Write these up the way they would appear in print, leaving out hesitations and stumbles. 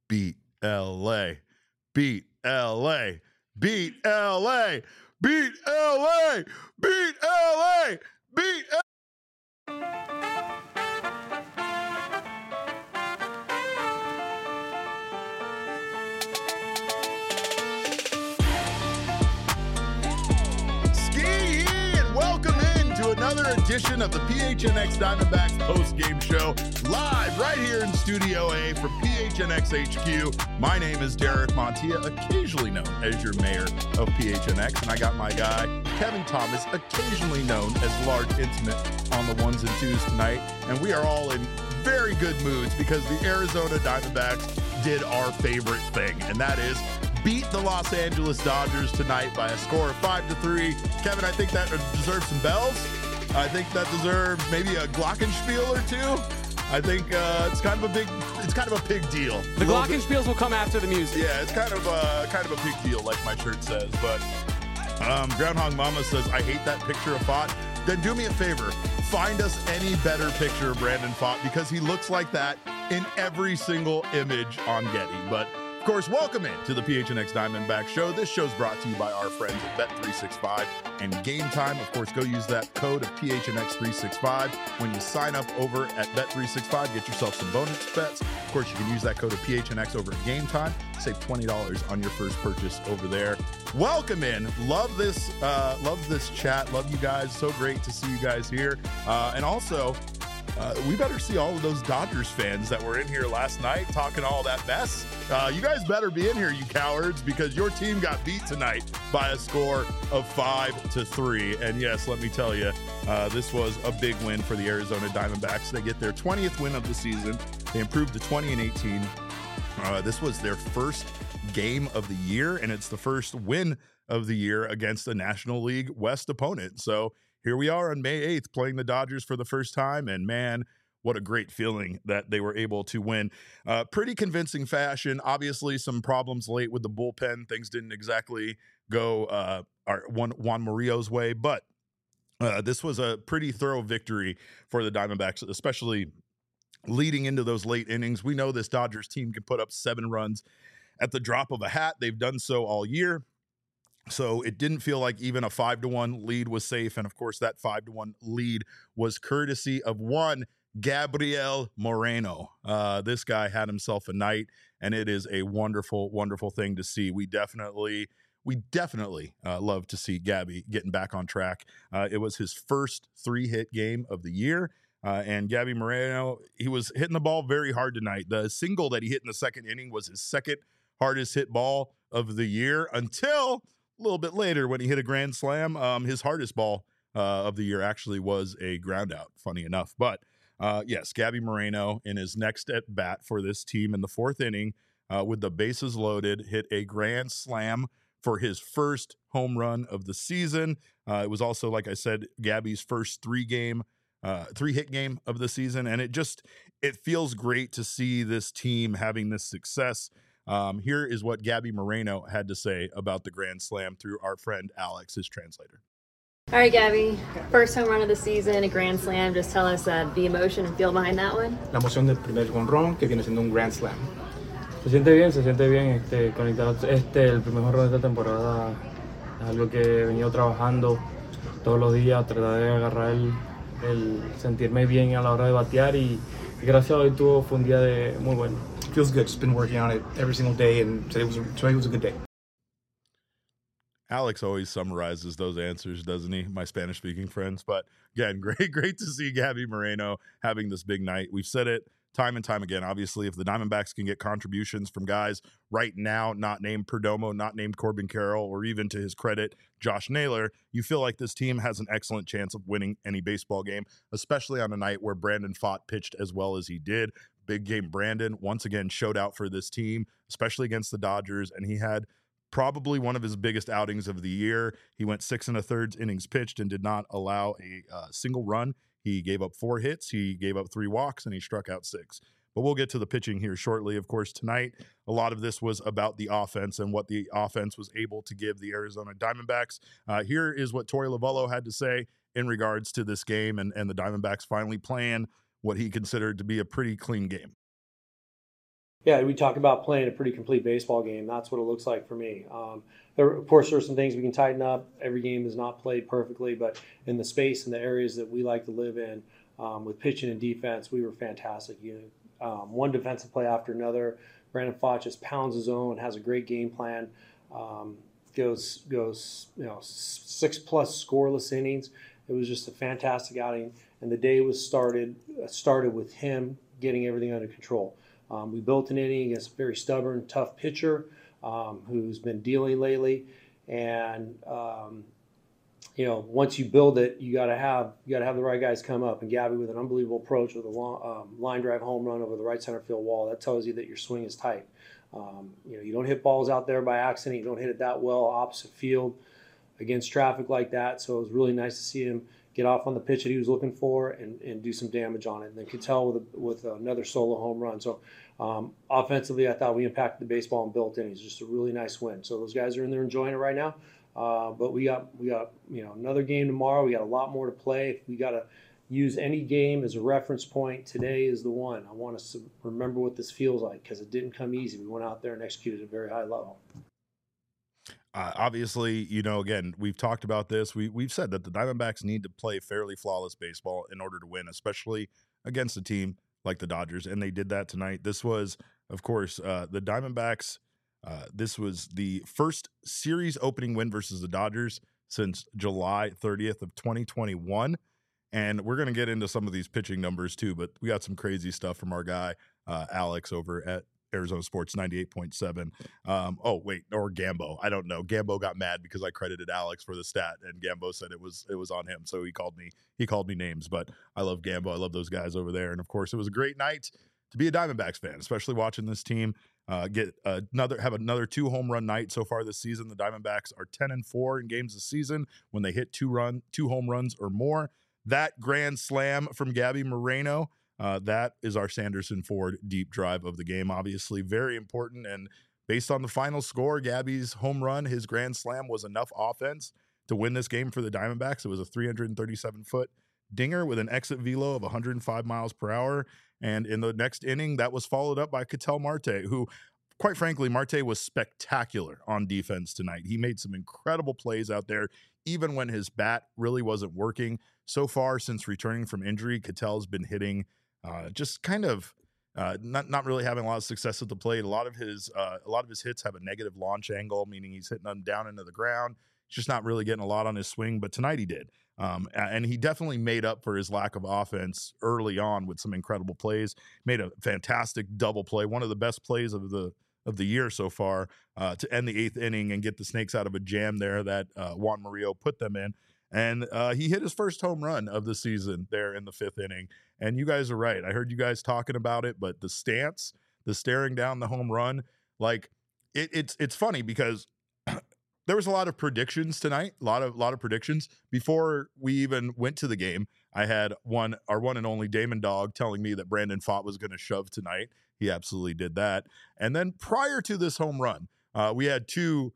beat LA, beat LA, beat LA, beat LA, beat LA, beat LA. Another edition of the PHNX Diamondbacks post-game show, live right here in Studio A from PHNX HQ. My name is Derek Montilla, occasionally known as your mayor of PHNX, and I got my guy, Kevin Thomas, occasionally known as Large Intimate on the ones and twos tonight, and we are all in very good moods because the Arizona Diamondbacks did our favorite thing, and that is beat the Los Angeles Dodgers tonight by a score of 5-3. Kevin, I think that deserves some bells. I think that deserves maybe a glockenspiel or two. I think it's kind of a big deal. The glockenspiels will come after the music. Yeah, it's kind of a big deal, like my shirt says. But Groundhog Mama says, I hate that picture of Pfaadt. Then do me a favor, find us any better picture of Brandon Pfaadt, because he looks like that in every single image on Getty. But of course, welcome in to the PHNX Diamondback Show. This show's brought to you by our friends at Bet365 and Game Time. Of course, go use that code of PHNX365 when you sign up over at Bet365. Get yourself some bonus bets. Of course, you can use that code of PHNX over at Game Time. Save $20 on your first purchase over there. Welcome in. Love this chat. Love you guys. So great to see you guys here. And also, we better see all of those Dodgers fans that were in here last night talking all that mess. You guys better be in here, you cowards, because your team got beat tonight by a score of 5-3. And yes, let me tell you, this was a big win for the Arizona Diamondbacks. They get their 20th win of the season. They improved to 20-18. This was their first game of the year, and it's the first win of the year against a National League West opponent. So here we are on May 8th playing the Dodgers for the first time, and man, what a great feeling that they were able to win. Pretty convincing fashion. Obviously, some problems late with the bullpen. Things didn't exactly go Juan Murillo's way, but this was a pretty thorough victory for the Diamondbacks, especially leading into those late innings. We know this Dodgers team can put up 7 runs at the drop of a hat. They've done so all year. So it didn't feel like even a 5-1 lead was safe. And of course, that 5-1 lead was courtesy of one Gabriel Moreno. This guy had himself a night, and it is a wonderful, wonderful thing to see. We definitely love to see Gabby getting back on track. It was his first 3-hit game of the year. And Gabby Moreno, he was hitting the ball very hard tonight. The single that he hit in the second inning was his second hardest hit ball of the year until a little bit later when he hit a grand slam. His hardest ball of the year actually was a ground out, funny enough. But yes, Gabby Moreno in his next at bat for this team in the 4th inning with the bases loaded, hit a grand slam for his first home run of the season. It was also, like I said, Gabby's first 3-hit game of the season. And it feels great to see this team having this success. Here is what Gabby Moreno had to say about the grand slam through our friend Alex, his translator. All right, Gabby, first home run of the season, a grand slam. Just tell us the emotion and feel behind that one. La emoción del primer jonrón, que viene siendo un grand slam. Se siente bien, conectado. El primer jonrón de esta temporada es algo que he venido trabajando todos los días, tratar de agarrar el sentirme bien a la hora de batear y gracias a hoy fue un día muy bueno. Feels good. Just been working on it every single day, and today was a good day. Alex always summarizes those answers, doesn't he? My Spanish-speaking friends. But again, great to see Gabby Moreno having this big night. We've said it time and time again. Obviously, if the Diamondbacks can get contributions from guys right now, not named Perdomo, not named Corbin Carroll, or even to his credit, Josh Naylor, you feel like this team has an excellent chance of winning any baseball game, especially on a night where Brandon Pfaadt pitched as well as he did. Big game Brandon once again showed out for this team, especially against the Dodgers, and he had probably one of his biggest outings of the year. He went 6 1/3 innings pitched and did not allow a single run. He gave up 4 hits, he gave up 3 walks, and he struck out 6. But we'll get to the pitching here shortly. Of course, tonight, a lot of this was about the offense and what the offense was able to give the Arizona Diamondbacks. Here is what Torey Lovullo had to say in regards to this game and the Diamondbacks finally playing what he considered to be a pretty clean game. Yeah, we talk about playing a pretty complete baseball game. That's what it looks like for me. Of course, there are some things we can tighten up. Every game is not played perfectly, but in the space and the areas that we like to live in, with pitching and defense, we were fantastic. One defensive play after another. Brandon Pfaadt just pounds his own, has a great game plan. Goes 6+ scoreless innings. It was just a fantastic outing, and the day was started with him getting everything under control. We built an inning against a very stubborn, tough pitcher who's been dealing lately, and once you build it, you got to have the right guys come up. And Gabby with an unbelievable approach with a long, line drive home run over the right center field wall. That tells you that your swing is tight. You don't hit balls out there by accident. You don't hit it that well opposite field against traffic like that. So it was really nice to see him get off on the pitch that he was looking for and do some damage on it. And then Ketel with another solo home run. So offensively, I thought we impacted the baseball and built innings. Just a really nice win. So those guys are in there enjoying it right now. But we got another game tomorrow. We got a lot more to play. If we got to use any game as a reference point, today is the one. I want us to remember what this feels like because it didn't come easy. We went out there and executed at a very high level. Obviously, again, we've talked about this. We've said that the Diamondbacks need to play fairly flawless baseball in order to win, especially against a team like the Dodgers, and they did that tonight. This was, of course, the Diamondbacks. This was the first series opening win versus the Dodgers since July 30th of 2021. And we're going to get into some of these pitching numbers too, but we got some crazy stuff from our guy, Alex, over at Arizona Sports 98.7. Or Gambo. I don't know. Gambo got mad because I credited Alex for the stat, and Gambo said it was on him. So he called me names, but I love Gambo. I love those guys over there. And of course, it was a great night to be a Diamondbacks fan, especially watching this team have another 2 home run night so far this season. The Diamondbacks are 10-4 in games this season when they hit 2 home runs or more. That grand slam from Gabby Moreno, that is our Sanderson Ford deep drive of the game. Obviously, very important. And based on the final score, Gabby's home run, his grand slam, was enough offense to win this game for the Diamondbacks. It was a 337-foot dinger with an exit velo of 105 miles per hour. And in the next inning, that was followed up by Ketel Marte, who, quite frankly, Marte was spectacular on defense tonight. He made some incredible plays out there, even when his bat really wasn't working. So far, since returning from injury, Ketel's been hitting just kind of not really having a lot of success at the plate. A lot of his hits have a negative launch angle, meaning he's hitting them down into the ground. He's just not really getting a lot on his swing, but tonight he did. And he definitely made up for his lack of offense early on with some incredible plays. Made a fantastic double play, one of the best plays of the year so far, to end the 8th inning and get the Snakes out of a jam there that Juan Murillo put them in. And he hit his first home run of the season there in the 5th inning. And you guys are right. I heard you guys talking about it, but the stance, the staring down the home run, like it's funny because there was a lot of predictions tonight, a lot of predictions before we even went to the game. I had our one and only Damon Dog telling me that Brandon Pfaadt was going to shove tonight. He absolutely did that. And then prior to this home run, we had two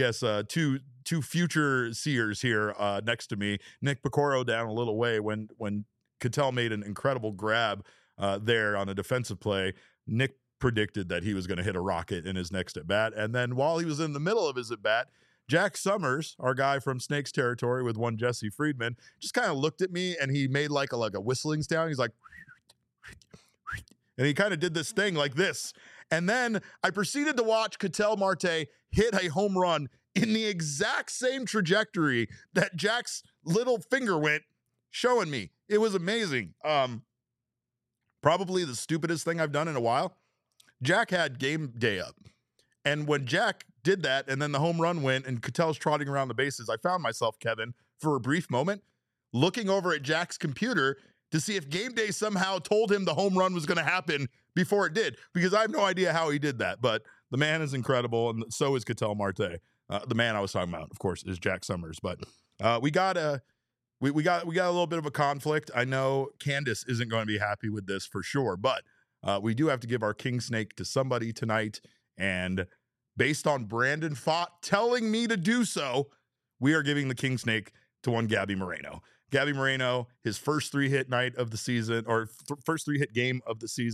future seers here next to me. Nick Picoro down a little way when Ketel made an incredible grab there on a defensive play. Nick predicted that he was going to hit a rocket in his next at bat. And then while he was in the middle of his at bat, Jack Summers, our guy from Snakes territory with one Jesse Friedman, just kind of looked at me and he made like a whistling sound. He's like, and he kind of did this thing like this. And then I proceeded to watch Ketel Marte hit a home run in the exact same trajectory that Jack's little finger went, showing me. It was amazing. Probably the stupidest thing I've done in a while. Jack had game day up. And when Jack did that and then the home run went and Ketel's trotting around the bases, I found myself, Kevin, for a brief moment, looking over at Jack's computer to see if game day somehow told him the home run was going to happen before it did, because I have no idea how he did that. But the man is incredible, and so is Ketel Marte. The man I was talking about, of course, is Jack Summers. But we got a little bit of a conflict. I know Candace isn't going to be happy with this for sure, but we do have to give our King Snake to somebody tonight. And based on Brandon Pfaadt telling me to do so, we are giving the King Snake to one Gabby Moreno. Gabby Moreno, his first 3-hit night of the season, or first 3-hit game of the season.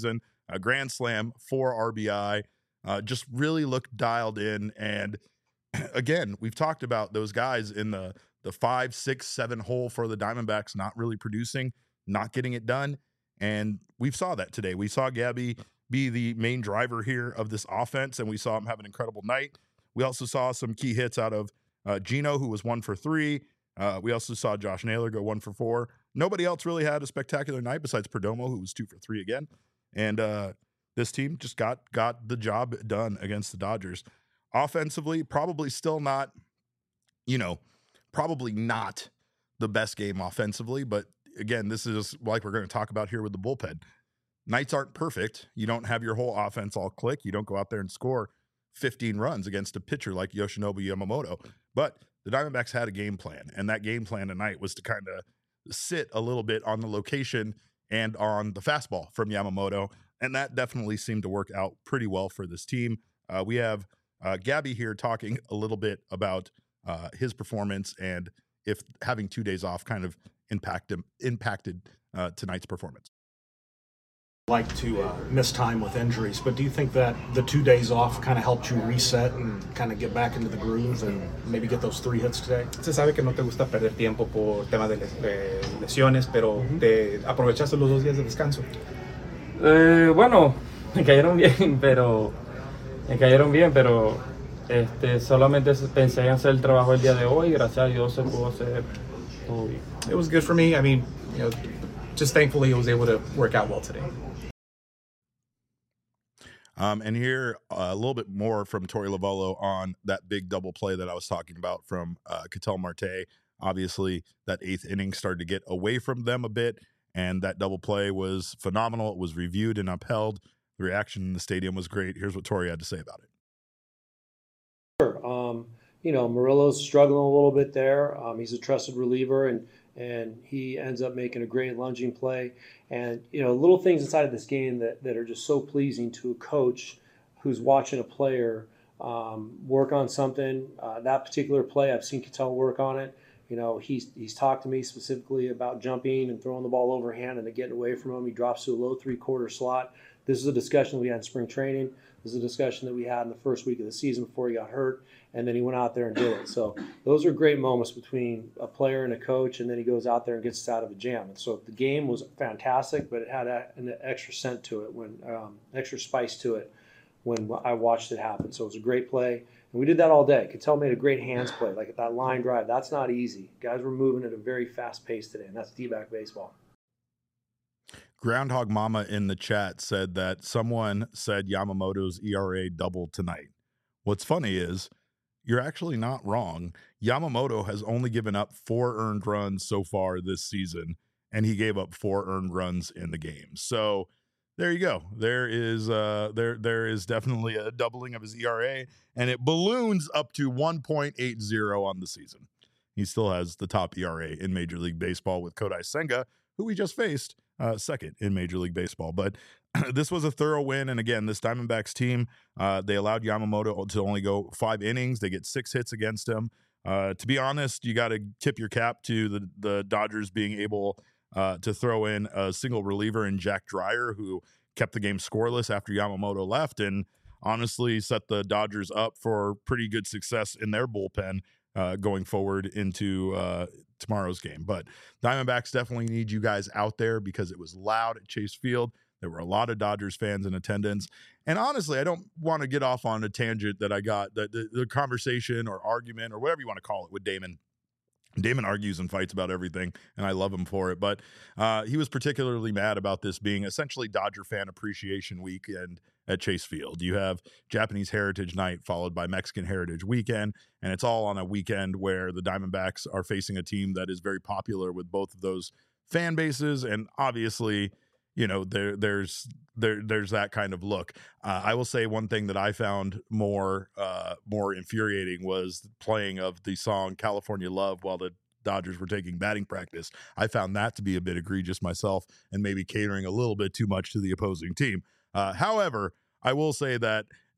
a grand slam, 4 RBI, just really looked dialed in. And again, we've talked about those guys in the 5, 6, 7 hole for the Diamondbacks not really producing, not getting it done. And we saw that today. We saw Gabby be the main driver here of this offense, and we saw him have an incredible night. We also saw some key hits out of Gino, who was 1 for 3. We also saw Josh Naylor go 1 for 4. Nobody else really had a spectacular night besides Perdomo, who was 2 for 3 again. And this team just got the job done against the Dodgers. Offensively, probably still not, probably not the best game offensively. But again, this is like we're going to talk about here with the bullpen. Nights aren't perfect. You don't have your whole offense all click. You don't go out there and score 15 runs against a pitcher like Yoshinobu Yamamoto. But the Diamondbacks had a game plan, and that game plan tonight was to kind of sit a little bit on the location and on the fastball from Yamamoto, and that definitely seemed to work out pretty well for this team. We have Gabby here talking a little bit about his performance and if having 2 days off kind of impacted tonight's performance. Like to miss time with injuries, but do you think that the 2 days off kind of helped you reset and kind of get back into the groove and maybe get those 3 hits today? Se sabe que no te gusta perder tiempo por temas de lesiones, pero te aprovechaste los 2 días de descanso. Bueno, me cayeron bien, pero solamente pensé en hacer el trabajo el día de hoy. Gracias a Dios se pudo hacer todo bien. It was good for me. I mean, just thankfully I was able to work out well today. And here a little bit more from Torey Lovullo on that big double play that I was talking about from Ketel Marte. Obviously, that 8th inning started to get away from them a bit, and that double play was phenomenal. It was reviewed and upheld. The reaction in the stadium was great. Here's what Torey had to say about it. Sure. Murillo's struggling a little bit there. He's a trusted reliever, and he ends up making a great lunging play. And, little things inside of this game that are just so pleasing to a coach who's watching a player work on something. That particular play, I've seen Ketel work on it. He's talked to me specifically about jumping and throwing the ball overhand and then getting away from him. He drops to a low 3/4 slot. This is a discussion we had in spring training. This is a discussion that we had in the first week of the season before he got hurt, and then he went out there and did it. So those are great moments between a player and a coach, and then he goes out there and gets us out of a jam. And so the game was fantastic, but it had an extra scent to it, extra spice to it when I watched it happen. So it was a great play, and we did that all day. Ketel made a great hands play, like at that line drive. That's not easy. Guys were moving at a very fast pace today, and that's D-back baseball. Groundhog Mama in the chat said that someone said Yamamoto's ERA doubled tonight. What's funny is you're actually not wrong. Yamamoto has only given up 4 earned runs so far this season, and he gave up 4 earned runs in the game. So there you go. There is definitely a doubling of his ERA, and it balloons up to 1.80 on the season. He still has the top ERA in Major League Baseball with Kodai Senga, who we just faced, second in Major League Baseball. But this was a thorough win. And again, this Diamondbacks team, they allowed Yamamoto to only go 5 innings. They get 6 hits against him. To be honest, you got to tip your cap to the Dodgers being able to throw in a single reliever in Jack Dreyer, who kept the game scoreless after Yamamoto left, and honestly set the Dodgers up for pretty good success in their bullpen going forward into tomorrow's game. But Diamondbacks definitely need you guys out there because it was loud at Chase Field. There were a lot of Dodgers fans in attendance. And honestly, I don't want to get off on a tangent that I got, the conversation or argument or whatever you want to call it with Damon. Damon argues and fights about everything, and I love him for it. But he was particularly mad about this being essentially Dodger Fan Appreciation Weekend at Chase Field. You have Japanese Heritage Night followed by Mexican Heritage Weekend, and it's all on a weekend where the Diamondbacks are facing a team that is very popular with both of those fan bases, and obviously, you know, there's that kind of look. I will say one thing that I found more infuriating was playing of the song California Love while the Dodgers were taking batting practice. I found that to be a bit egregious myself and maybe catering a little bit too much to the opposing team. However, I will say that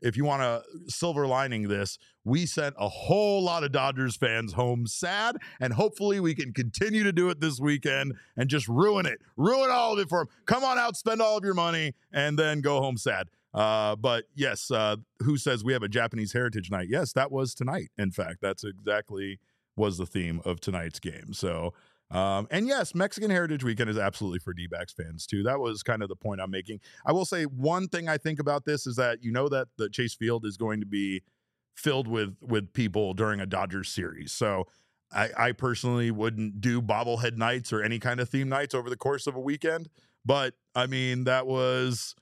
if you want to silver lining this, we sent a whole lot of Dodgers fans home sad, and hopefully we can continue to do it this weekend and just ruin all of it for them. Come on out, spend all of your money, and then go home sad. But yes, who says we have a Japanese Heritage Night? Yes, that was tonight. In fact, that's exactly was the theme of tonight's game. So, and yes, Mexican Heritage Weekend is absolutely for D-backs fans too. That was kind of the point I'm making. I will say one thing I think about this is that that the Chase Field is going to be filled with people during a Dodgers series. So I personally wouldn't do bobblehead nights or any kind of theme nights over the course of a weekend. But I mean, that was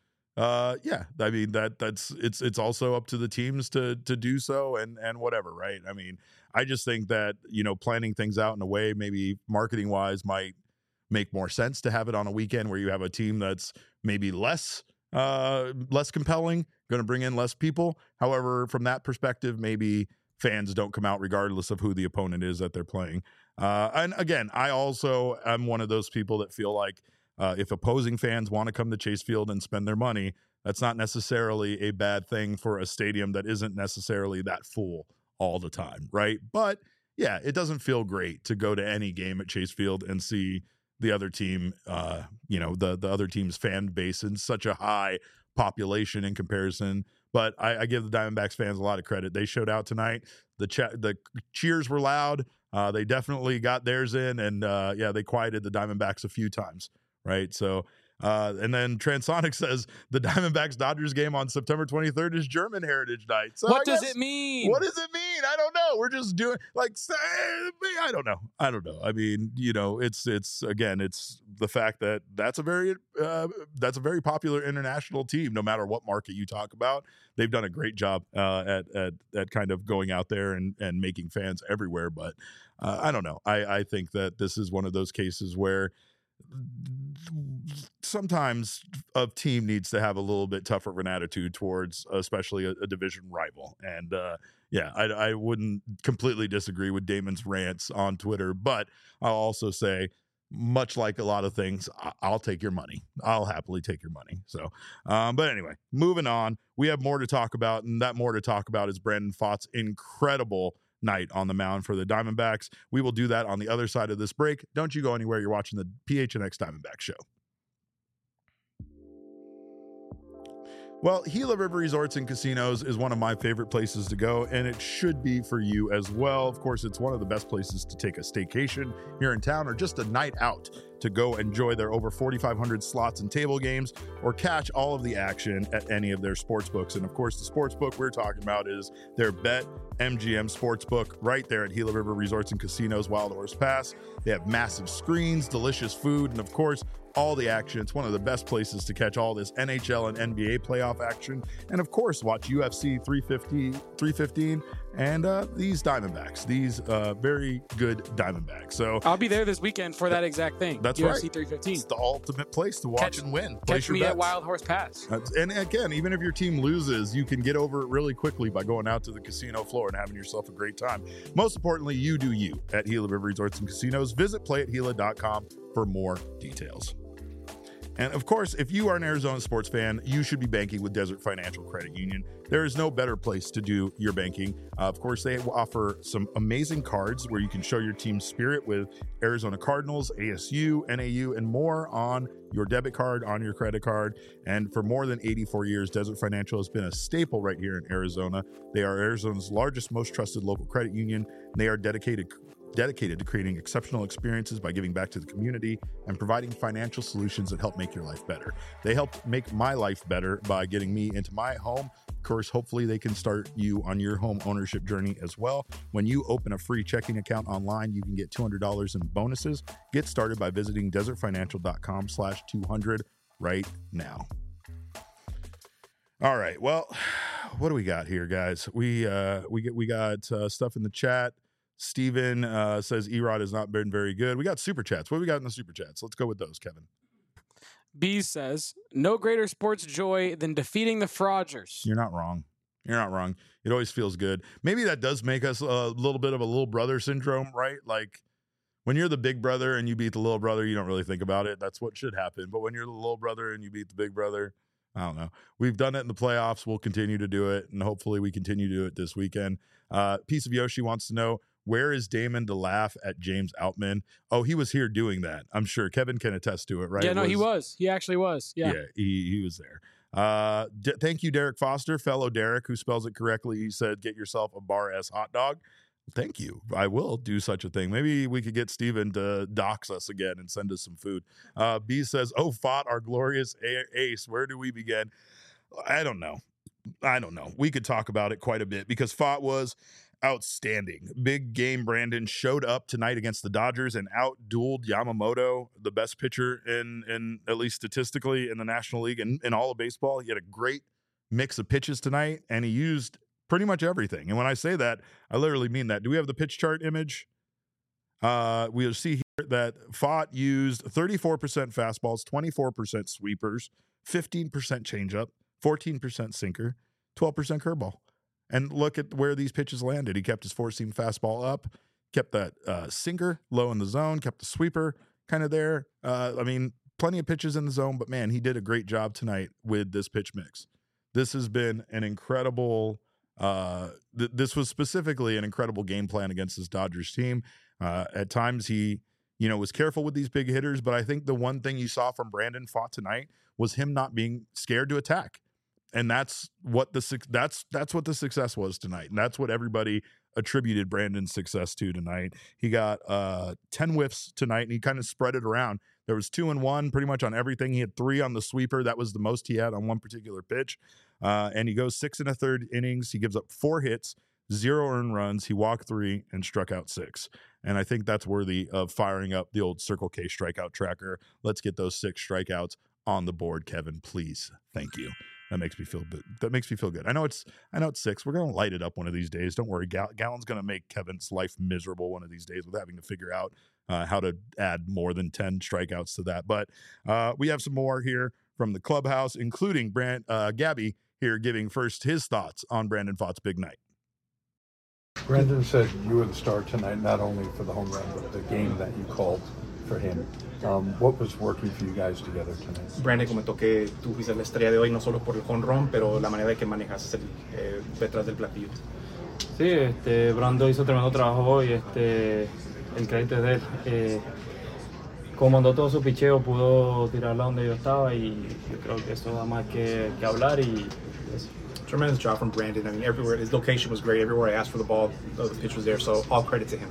it's also up to the teams to do so and whatever, right? I mean, I just think that, planning things out in a way, maybe marketing wise, might make more sense to have it on a weekend where you have a team that's maybe less compelling, going to bring in less people. However, from that perspective, maybe fans don't come out regardless of who the opponent is that they're playing. And again, I also am one of those people that feel like, if opposing fans want to come to Chase Field and spend their money, that's not necessarily a bad thing for a stadium that isn't necessarily that full all the time, right? But yeah, it doesn't feel great to go to any game at Chase Field and see the other team, the other team's fan base in such a high population in comparison. But I give the Diamondbacks fans a lot of credit. They showed out tonight. The cheers were loud. They definitely got theirs in, and they quieted the Diamondbacks a few times. Right. So, and then Transonic says the Diamondbacks Dodgers game on September 23rd is German Heritage Night. So what does it mean? What does it mean? I don't know. We're just doing I don't know. I mean, it's the fact that that's a very popular international team, no matter what market you talk about. They've done a great job at kind of going out there and making fans everywhere. But I don't know. I think that this is one of those cases where sometimes a team needs to have a little bit tougher of an attitude towards especially a division rival. And I wouldn't completely disagree with Damon's rants on Twitter, but I'll also say, much like a lot of things, I'll take your money. I'll happily take your money. So, but anyway, moving on, we have more to talk about, and that more to talk about is Brandon Pfaadt's incredible night on the mound for the Diamondbacks. We will do that on the other side of this break. Don't you go anywhere. You're watching the PHNX Diamondback Show. Well, Gila River Resorts and Casinos is one of my favorite places to go, and it should be for you as well. Of course, it's one of the best places to take a staycation here in town or just a night out to go enjoy their over 4,500 slots and table games or catch all of the action at any of their sports books. And of course, the sports book we're talking about is their BetMGM Sportsbook right there at Gila River Resorts and Casinos, Wild Horse Pass. They have massive screens, delicious food, and of course, all the action. It's one of the best places to catch all this NHL and NBA playoff action. And of course, watch UFC 315 and these Diamondbacks, these very good Diamondbacks. So I'll be there this weekend for that exact thing. That's UFC right. 315. It's the ultimate place to watch and win. Catch me at Wild Horse Pass. And again, even if your team loses, you can get over it really quickly by going out to the casino floor and having yourself a great time. Most importantly, you do you at Gila River Resorts and Casinos. Visit playathila.com for more details. And of course, if you are an Arizona sports fan, you should be banking with Desert Financial Credit Union. There is no better place to do your banking. Of course, they offer some amazing cards where you can show your team's spirit with Arizona Cardinals, ASU, NAU, and more on your debit card, on your credit card. And for more than 84 years, Desert Financial has been a staple right here in Arizona. They are Arizona's largest, most trusted local credit union. And they are dedicated to creating exceptional experiences by giving back to the community and providing financial solutions that help make your life better. They help make my life better by getting me into my home. Of course, hopefully they can start you on your home ownership journey as well. When you open a free checking account online, you can get $200 in bonuses. Get started by visiting desertfinancial.com/200 right now. All right. Well, what do we got here, guys? We got stuff in the chat. Steven says Erod has not been very good. We got super chats. What do we got in the super chats? Let's go with those, Kevin. Bees says, no greater sports joy than defeating the Frogers. You're not wrong. You're not wrong. It always feels good. Maybe that does make us a little bit of a little brother syndrome, right? Like when you're the big brother and you beat the little brother, you don't really think about it. That's what should happen. But when you're the little brother and you beat the big brother, I don't know. We've done it in the playoffs. We'll continue to do it, and hopefully we continue to do it this weekend. Piece of Yoshi wants to know, where is Damon to laugh at James Outman? Oh, he was here doing that. I'm sure Kevin can attest to it, right? Yeah, no, he was. He actually was. Yeah. Yeah, he was there. Thank you, Derek Foster, fellow Derek, who spells it correctly. He said, get yourself a Bar S hot dog. Thank you. I will do such a thing. Maybe we could get Steven to dox us again and send us some food. B says, oh, Fought, our glorious ace. Where do we begin? I don't know. We could talk about it quite a bit because Fought was outstanding. Big game Brandon showed up tonight against the Dodgers and outdueled Yamamoto, the best pitcher in at least statistically in the National League and in all of baseball. He had a great mix of pitches tonight, and he used pretty much everything. And when I say that, I literally mean that. Do we have the pitch chart image? We'll see here that Fought used 34% fastballs, 24% sweepers, 15% changeup, 14% sinker, 12% curveball. And look at where these pitches landed. He kept his four-seam fastball up, kept that sinker low in the zone, kept the sweeper kind of there. I mean, plenty of pitches in the zone, but man, he did a great job tonight with this pitch mix. This has been an incredible this was specifically an incredible game plan against this Dodgers team. At times he, was careful with these big hitters, but I think the one thing you saw from Brandon Fought tonight was him not being scared to attack. And that's what the success was tonight. And that's what everybody attributed Brandon's success to tonight. He got 10 whiffs tonight, and he kind of spread it around. There was 2 and 1 pretty much on everything. He had 3 on the sweeper. That was the most he had on one particular pitch. And he goes 6 1/3 innings. He gives up 4 hits, 0 earned runs. He walked 3 and struck out 6. And I think that's worthy of firing up the old Circle K strikeout tracker. Let's get those 6 strikeouts on the board, Kevin, please. Thank you. That makes me feel good. I know it's 6. We're going to light it up one of these days. Don't worry. Gallen's going to make Kevin's life miserable one of these days with having to figure out how to add more than 10 strikeouts to that. But we have some more here from the clubhouse, including Gabby here giving first his thoughts on Brandon Fought's big night. Brandon said you were the star tonight, not only for the home run, but the game that you called for him. What was working for you guys together tonight? Brandon comentó que tú fuiste la estrella de hoy, no solo por el home run, pero la manera de que manejas detrás del platillo. Sí, Brando hizo tremendo trabajo hoy, el crédito es de él. Comandó todo su picheo, pudo tirarla donde yo estaba y yo creo que eso da más que hablar y eso. Tremendous job from Brandon. I mean, everywhere, his location was great. Everywhere I asked for the ball, the pitch was there, so all credit to him.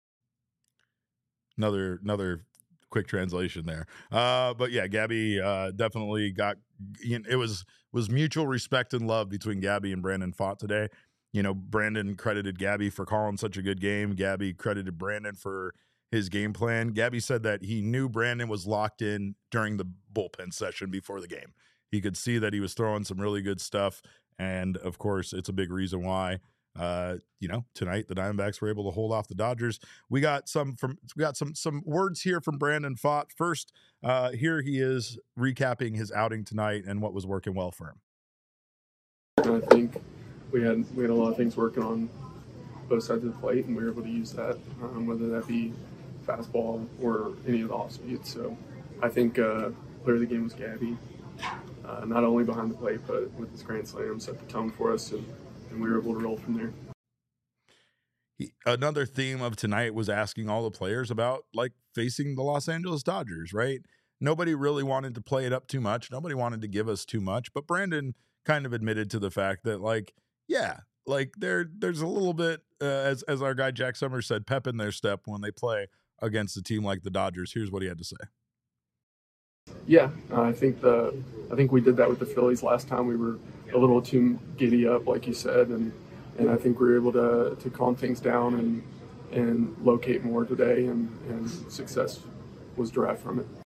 Another quick translation there. But yeah, Gabby definitely got, it was mutual respect and love between Gabby and Brandon Fought today. Brandon credited Gabby for calling such a good game. Gabby credited Brandon for his game plan. Gabby said that he knew Brandon was locked in during the bullpen session before the game. He could see that he was throwing some really good stuff. And of course, it's a big reason why, tonight the Diamondbacks were able to hold off the Dodgers. We got some words here from Brandon Fought. First, here he is recapping his outing tonight and what was working well for him. I think we had a lot of things working on both sides of the plate, and we were able to use that, whether that be fastball or any of the off speeds. So I think player of the game was Gabby. Not only behind the plate, but with his grand slam, set the tone for us, and we were able to roll from there. Another theme of tonight was asking all the players about facing the Los Angeles Dodgers, right? Nobody really wanted to play it up too much. Nobody wanted to give us too much, but Brandon kind of admitted to the fact that there's a little bit, as our guy Jack Summers said, pep in their step when they play against a team like the Dodgers. Here's what he had to say. Yeah, I think we did that with the Phillies last time. We were a little too giddy up, like you said, and I think we were able to calm things down and locate more today, and success was derived from it.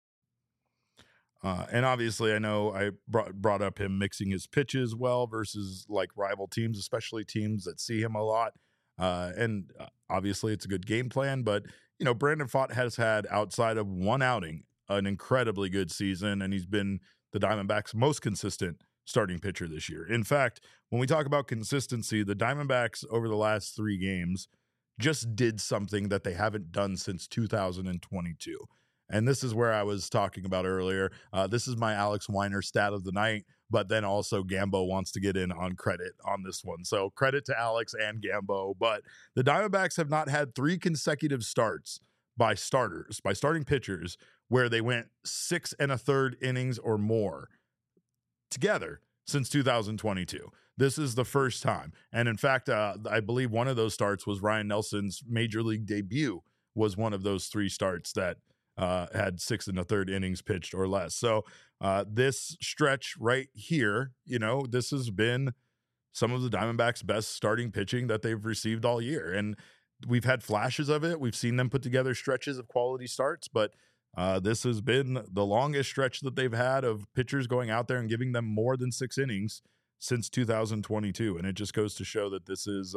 And obviously, I know I brought up him mixing his pitches well versus rival teams, especially teams that see him a lot. And obviously, it's a good game plan. But Brandon Fought has had, outside of one outing, an incredibly good season, and he's been the Diamondbacks' most consistent starting pitcher this year. In fact, when we talk about consistency, the Diamondbacks over the last 3 games just did something that they haven't done since 2022. And this is where I was talking about earlier. This is my Alex Weiner stat of the night, but then also Gambo wants to get in on credit on this one. So credit to Alex and Gambo. But the Diamondbacks have not had 3 consecutive starts by starting pitchers, where they went 6 1/3 innings or more together since 2022. This is the first time. And in fact, I believe one of those starts was Ryan Nelson's major league debut, was one of those 3 starts that had 6 1/3 innings pitched or less. So this stretch right here, this has been some of the Diamondbacks' best starting pitching that they've received all year. And we've had flashes of it. We've seen them put together stretches of quality starts, but this has been the longest stretch that they've had of pitchers going out there and giving them more than 6 innings since 2022. And it just goes to show that this is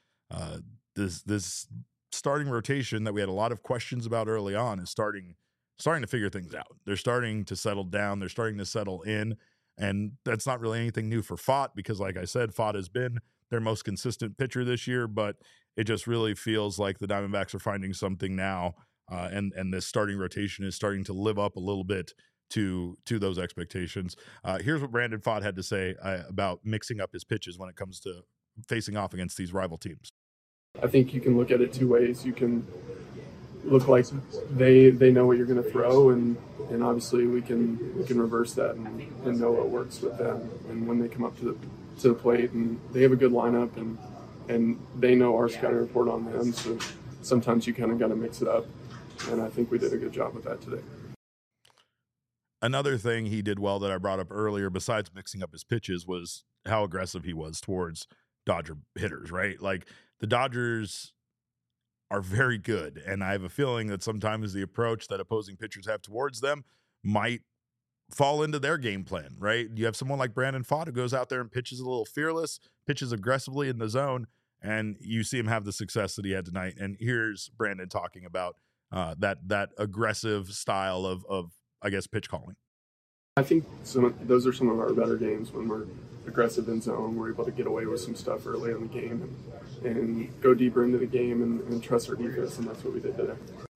this starting rotation that we had a lot of questions about early on is starting to figure things out. They're starting to settle down. They're starting to settle in. And that's not really anything new for Pfaadt, because like I said, Pfaadt has been their most consistent pitcher this year, but it just really feels like the Diamondbacks are finding something now. And this starting rotation is starting to live up a little bit to those expectations. Here's what Brandon Pfaadt had to say about mixing up his pitches when it comes to facing off against these rival teams. I think you can look at it 2 ways. You can look like they know what you're going to throw, and obviously we can reverse that and know what works with them. And when they come up to the plate and they have a good lineup and they know our scouting report on them, so sometimes you kind of got to mix it up. And I think we did a good job with that today. Another thing he did well that I brought up earlier, besides mixing up his pitches, was how aggressive he was towards Dodger hitters, right? Like, the Dodgers are very good, and I have a feeling that sometimes the approach that opposing pitchers have towards them might fall into their game plan, right? You have someone like Brandon Pfaadt who goes out there and pitches a little fearless, pitches aggressively in the zone, and you see him have the success that he had tonight. And here's Brandon talking about that aggressive style of I guess, pitch calling. I think those are some of our better games when we're aggressive in zone. We're able to get away with some stuff early in the game and go deeper into the game and trust our defense, and that's what we did today.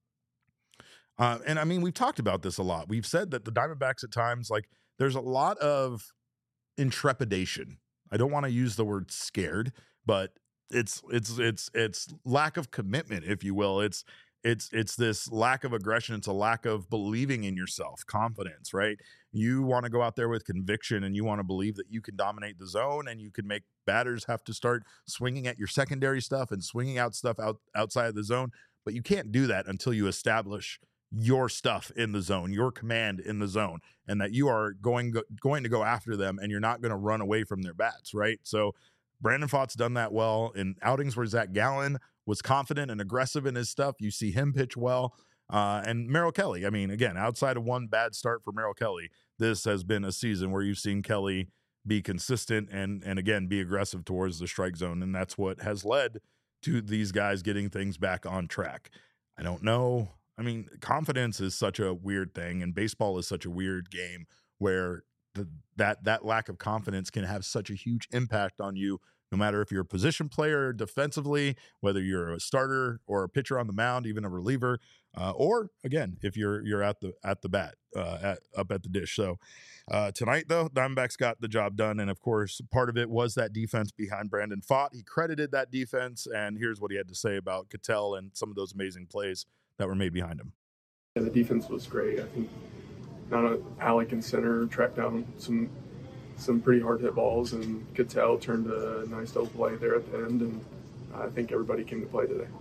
And I mean, we've talked about this a lot. We've said that the Diamondbacks at times, like, there's a lot of intrepidation. I don't want to use the word scared, but it's lack of commitment, if you will. It's this lack of aggression. It's a lack of believing in yourself, confidence, right? You want to go out there with conviction, and you want to believe that you can dominate the zone, and you can make batters have to start swinging at your secondary stuff and swinging out stuff outside of the zone. But you can't do that until you establish your stuff in the zone, your command in the zone, and that you are going to go after them, and you're not going to run away from their bats, right? So Brandon Pfaadt's done that well in outings where Zach Gallen was confident and aggressive in his stuff. You see him pitch well. And Merrill Kelly, I mean, again, outside of one bad start for Merrill Kelly, this has been a season where you've seen Kelly be consistent and again, be aggressive towards the strike zone. And that's what has led to these guys getting things back on track. I don't know. I mean, confidence is such a weird thing, and baseball is such a weird game where that lack of confidence can have such a huge impact on you, no matter if you're a position player defensively, whether you're a starter or a pitcher on the mound, even a reliever, or again, if you're at the bat, up at the dish. So tonight, though, Diamondbacks got the job done, and of course, part of it was that defense behind Brandon Pfaadt. He credited that defense, and here's what he had to say about Ketel and some of those amazing plays that were made behind him. Yeah, the defense was great. I think Alec in center tracked down some pretty hard hit balls, and Ketel turned a nice double play there at the end, and I think everybody came to play today.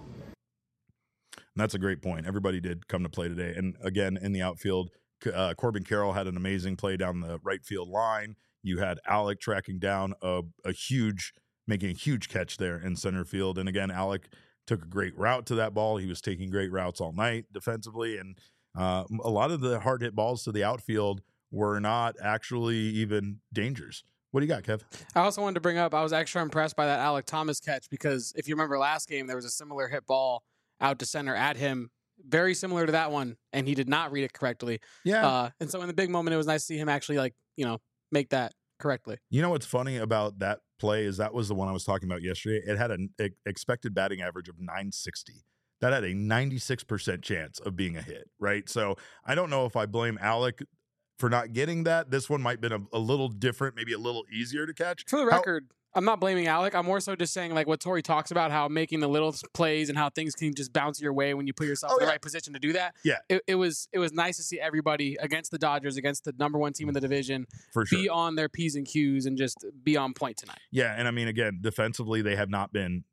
And that's a great point. Everybody did come to play today. And again, in the outfield, Corbin Carroll had an amazing play down the right field line. You had Alec tracking down making a huge catch there in center field. And again, Alec took a great route to that ball. He was taking great routes all night defensively. And a lot of the hard hit balls to the outfield were not actually even dangers. What do you got, Kev? I also wanted to bring up, I was extra impressed by that Alec Thomas catch, because if you remember last game, there was a similar hit ball out to center at him, very similar to that one, and he did not read it correctly. Yeah. And so in the big moment, it was nice to see him actually, make that correctly. You know what's funny about that play is that was the one I was talking about yesterday. It had an expected batting average of 960. that had a 96% chance of being a hit, right? So I don't know if I blame Alec for not getting that. This one might have been a little different, maybe a little easier to catch. For the record, I'm not blaming Alec. I'm more so just saying like what Torrey talks about, how making the little plays and how things can just bounce your way when you put yourself in the right position to do that. Yeah. It was nice to see everybody against the Dodgers, against the number one team in the division, For sure. be on their P's and Q's and just be on point tonight. Yeah, and I mean, again, defensively, they have not been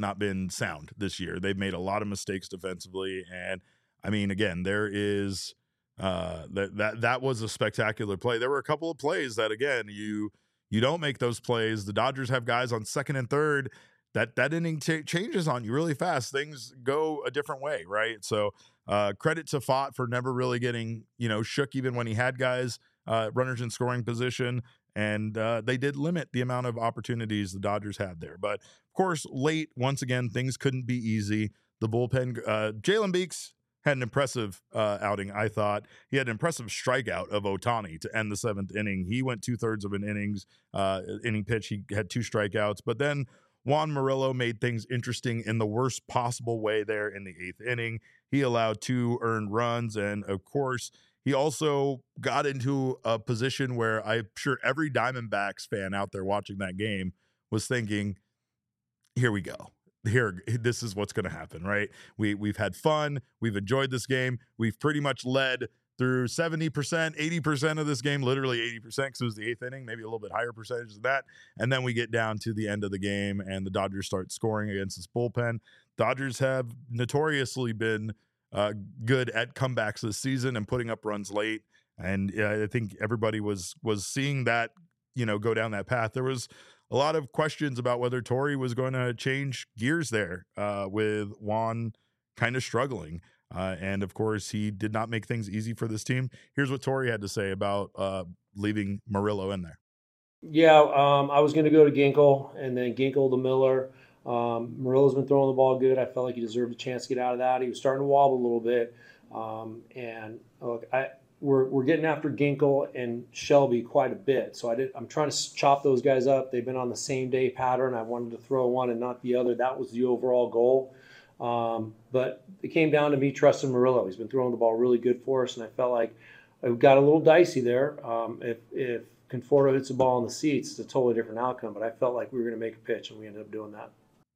sound this year. They've made a lot of mistakes defensively, and I mean, again, there is that was a spectacular play. There were a couple of plays that, again, you don't make those plays. The Dodgers have guys on second and third. That inning changes on you really fast. Things go a different way, right? So credit to Pfaadt for never really getting shook, even when he had guys runners in scoring position. And they did limit the amount of opportunities the Dodgers had there. But, of course, late, once again, things couldn't be easy. The bullpen, Jalen Beeks had an impressive outing, I thought. He had an impressive strikeout of Ohtani to end the seventh inning. He went 2/3 of an inning pitch. He had 2 strikeouts. But then Juan Murillo made things interesting in the worst possible way there in the 8th inning. He allowed 2 earned runs. And, of course, he also got into a position where I'm sure every Diamondbacks fan out there watching that game was thinking, here we go. This is what's going to happen, right? We've had fun. We've enjoyed this game. We've pretty much led through 70%, 80% of this game, literally 80%, because it was the 8th inning, maybe a little bit higher percentage than that. And then we get down to the end of the game, and the Dodgers start scoring against this bullpen. Dodgers have notoriously been good at comebacks this season and putting up runs late. And I think everybody was seeing that, go down that path. There was a lot of questions about whether Torrey was going to change gears there with Juan kind of struggling. And, of course, he did not make things easy for this team. Here's what Torrey had to say about leaving Murillo in there. Yeah, I was going to go to Ginkel and then Ginkel to Miller. Murillo's been throwing the ball good. I felt like he deserved a chance to get out of that. He was starting to wobble a little bit. And look, we're getting after Ginkel and Shelby quite a bit. So I'm trying to chop those guys up. They've been on the same day pattern. I wanted to throw one and not the other. That was the overall goal. But it came down to me trusting Murillo. He's been throwing the ball really good for us, and I felt like it got a little dicey there. If Conforto hits the ball in the seats, it's a totally different outcome. But I felt like we were going to make a pitch, and we ended up doing that.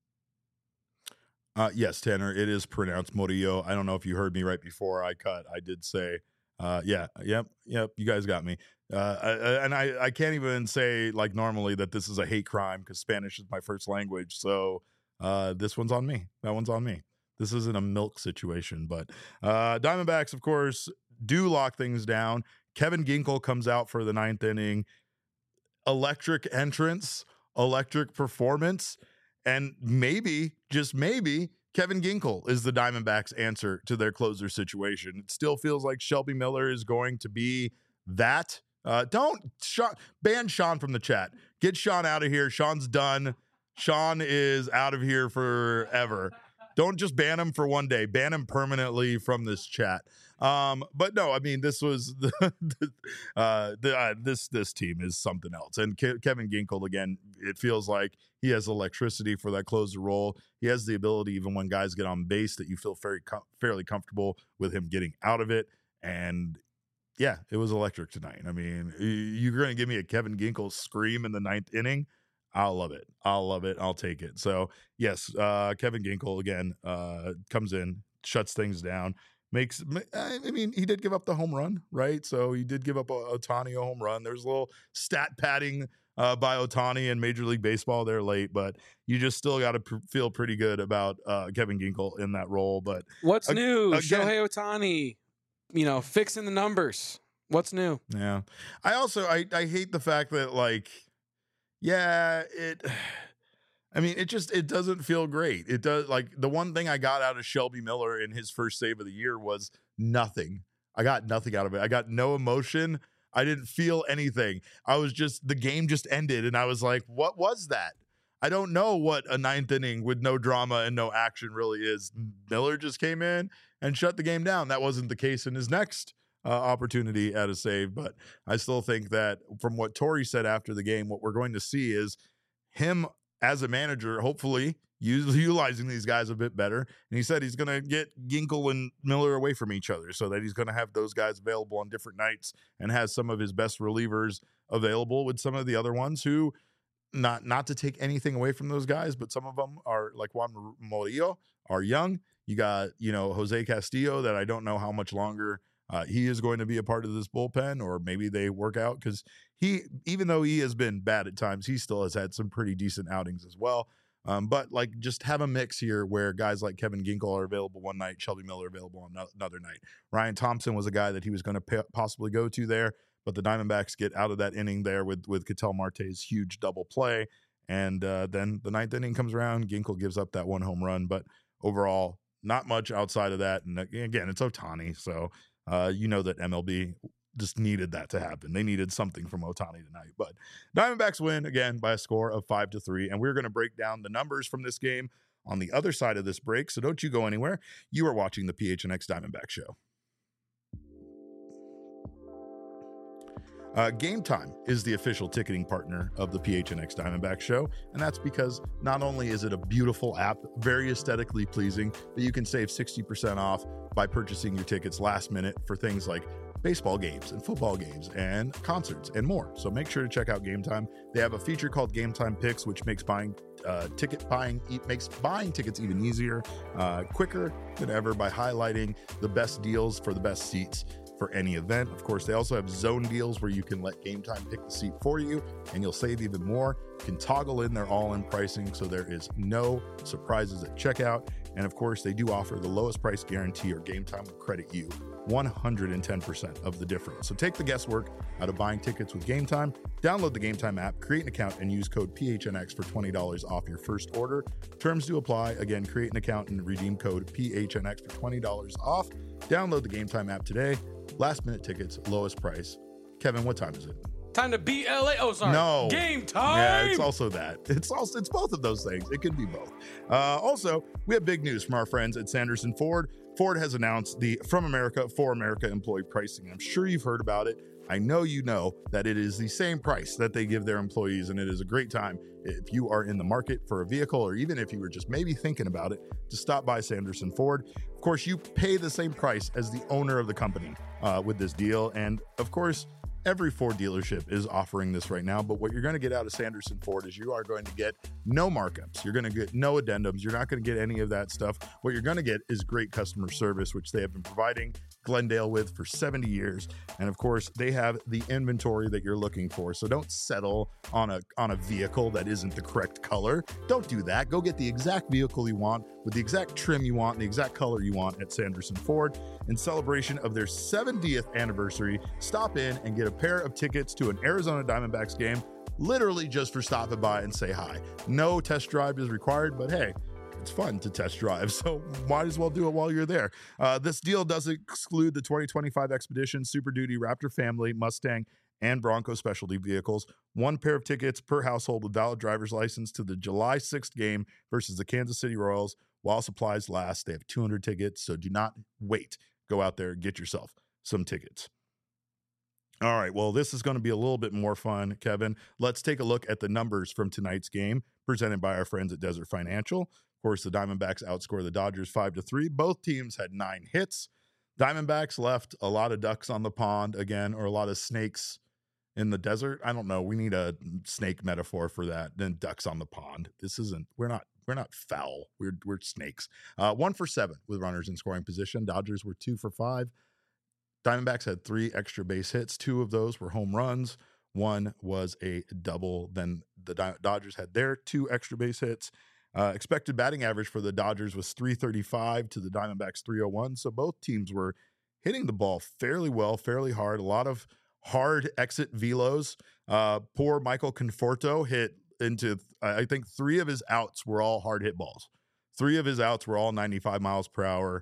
Yes, Tanner, it is pronounced Murillo. I don't know if you heard me right before I cut. I did say, yep, you guys got me. I can't even say like normally that this is a hate crime because Spanish is my first language. So this one's on me. That one's on me. This isn't a milk situation, but Diamondbacks, of course, do lock things down. Kevin Ginkel comes out for the 9th inning. Electric entrance, electric performance. And maybe, just maybe, Kevin Ginkel is the Diamondbacks' answer to their closer situation. It still feels like Shelby Miller is going to be that. Ban Sean from the chat. Get Sean out of here. Sean's done. Sean is out of here forever. Don't just ban him for one day. Ban him permanently from this chat. But no, I mean, this was this team is something else. And Kevin Ginkel, again, it feels like he has electricity for that closer role. He has the ability, even when guys get on base, that you feel fairly comfortable with him getting out of it. And yeah, it was electric tonight. I mean, you're going to give me a Kevin Ginkel scream in the 9th inning. I'll love it. I'll take it. So yes, Kevin Ginkel again comes in, shuts things down. I mean, he did give up the home run, right? So he did give up Ohtani a home run. There's a little stat padding by Ohtani in Major League Baseball there late, but you just still got to feel pretty good about Kevin Ginkel in that role. But what's new? Shohei Ohtani, fixing the numbers. What's new? Yeah. I hate the fact that it doesn't feel great. It does. Like, the one thing I got out of Shelby Miller in his first save of the year was nothing. I got nothing out of it. I got no emotion. I didn't feel anything. The game just ended, and I was like, what was that? I don't know what a 9th inning with no drama and no action really is. Miller just came in and shut the game down. That wasn't the case in his next opportunity at a save, but I still think that from what Torrey said after the game, what we're going to see is him as a manager, hopefully, utilizing these guys a bit better. And he said he's going to get Ginkel and Miller away from each other so that he's going to have those guys available on different nights and has some of his best relievers available with some of the other ones who, not to take anything away from those guys, but some of them are like Juan Murillo are young. You got, Jose Castillo that I don't know how much longer he is going to be a part of this bullpen, or maybe they work out, because even though he has been bad at times, he still has had some pretty decent outings as well. But like, just have a mix here where guys like Kevin Ginkel are available one night, Shelby Miller available on another night. Ryan Thompson was a guy that he was going to possibly go to there, but the Diamondbacks get out of that inning there with Ketel Marte's huge double play. And then the ninth inning comes around, Ginkel gives up that one home run, but overall, not much outside of that. And again, it's Ohtani, so that MLB just needed that to happen. They needed something from Ohtani tonight. But Diamondbacks win again by a score of 5-3. And we're going to break down the numbers from this game on the other side of this break. So don't you go anywhere. You are watching the PHNX Diamondback Show. Game Time is the official ticketing partner of the PHNX Diamondback Show, and that's because not only is it a beautiful app, very aesthetically pleasing, but you can save 60% off by purchasing your tickets last minute for things like baseball games and football games and concerts and more. So make sure to check out Game Time. They have a feature called Game Time Picks, which makes buying tickets even easier, quicker than ever by highlighting the best deals for the best seats for any event. Of course, they also have zone deals where you can let Game Time pick the seat for you and you'll save even more. You can toggle in their all-in pricing so there is no surprises at checkout. And of course, they do offer the lowest price guarantee, or Game Time will credit you 110% of the difference. So take the guesswork out of buying tickets with Game Time. Download the Game Time app, create an account, and use code PHNX for $20 off your first order. Terms do apply. Again, create an account and redeem code PHNX for $20 off. Download the Game Time app today. Last minute tickets, lowest price. Kevin, what time is it? Time to beat LA. Oh, sorry. No. Game time. Yeah, it's also that. It's both of those things. It can be both. Also, we have big news from our friends at Sanderson Ford. Ford has announced the From America for America employee pricing. I'm sure you've heard about it. I know you know that it is the same price that they give their employees, and it is a great time if you are in the market for a vehicle, or even if you were just maybe thinking about it, to stop by Sanderson Ford. Of course, you pay the same price as the owner of the company with this deal, and of course, every Ford dealership is offering this right now, but what you're going to get out of Sanderson Ford is you are going to get no markups. You're going to get no addendums. You're not going to get any of that stuff. What you're going to get is great customer service, which they have been providing Glendale with for 70 years. And of course, they have the inventory that you're looking for. So don't settle on a vehicle that isn't the correct color. Don't do that. Go get the exact vehicle you want with the exact trim you want and the exact color you want at Sanderson Ford. In celebration of their 70th anniversary, stop in and get a pair of tickets to an Arizona Diamondbacks game, literally just for stopping by and say hi. No test drive is required, but hey, it's fun to test drive, so might as well do it while you're there. This deal does exclude the 2025 Expedition, Super Duty, Raptor Family, Mustang, and Bronco specialty vehicles. One pair of tickets per household with valid driver's license to the July 6th game versus the Kansas City Royals while supplies last. They have 200 tickets, so do not wait. Go out there and get yourself some tickets. All right, well, this is going to be a little bit more fun, Kevin. Let's take a look at the numbers from tonight's game presented by our friends at Desert Financial. Of course, the Diamondbacks outscored the Dodgers 5-3. Both teams had 9 hits. Diamondbacks left a lot of ducks on the pond again, or a lot of snakes in the desert. I don't know. We need a snake metaphor for that than ducks on the pond. We're not foul. We're snakes. 1 for 7 with runners in scoring position. Dodgers were 2 for 5. Diamondbacks had 3 extra base hits. 2 of those were home runs. 1 was a double. Then the Dodgers had their 2 extra base hits. Expected batting average for the Dodgers was .335 to the Diamondbacks .301. So both teams were hitting the ball fairly well, fairly hard. A lot of hard exit velos. Poor Michael Conforto hit into, I think 3 of his outs were all hard hit balls. 3 of his outs were all 95 miles per hour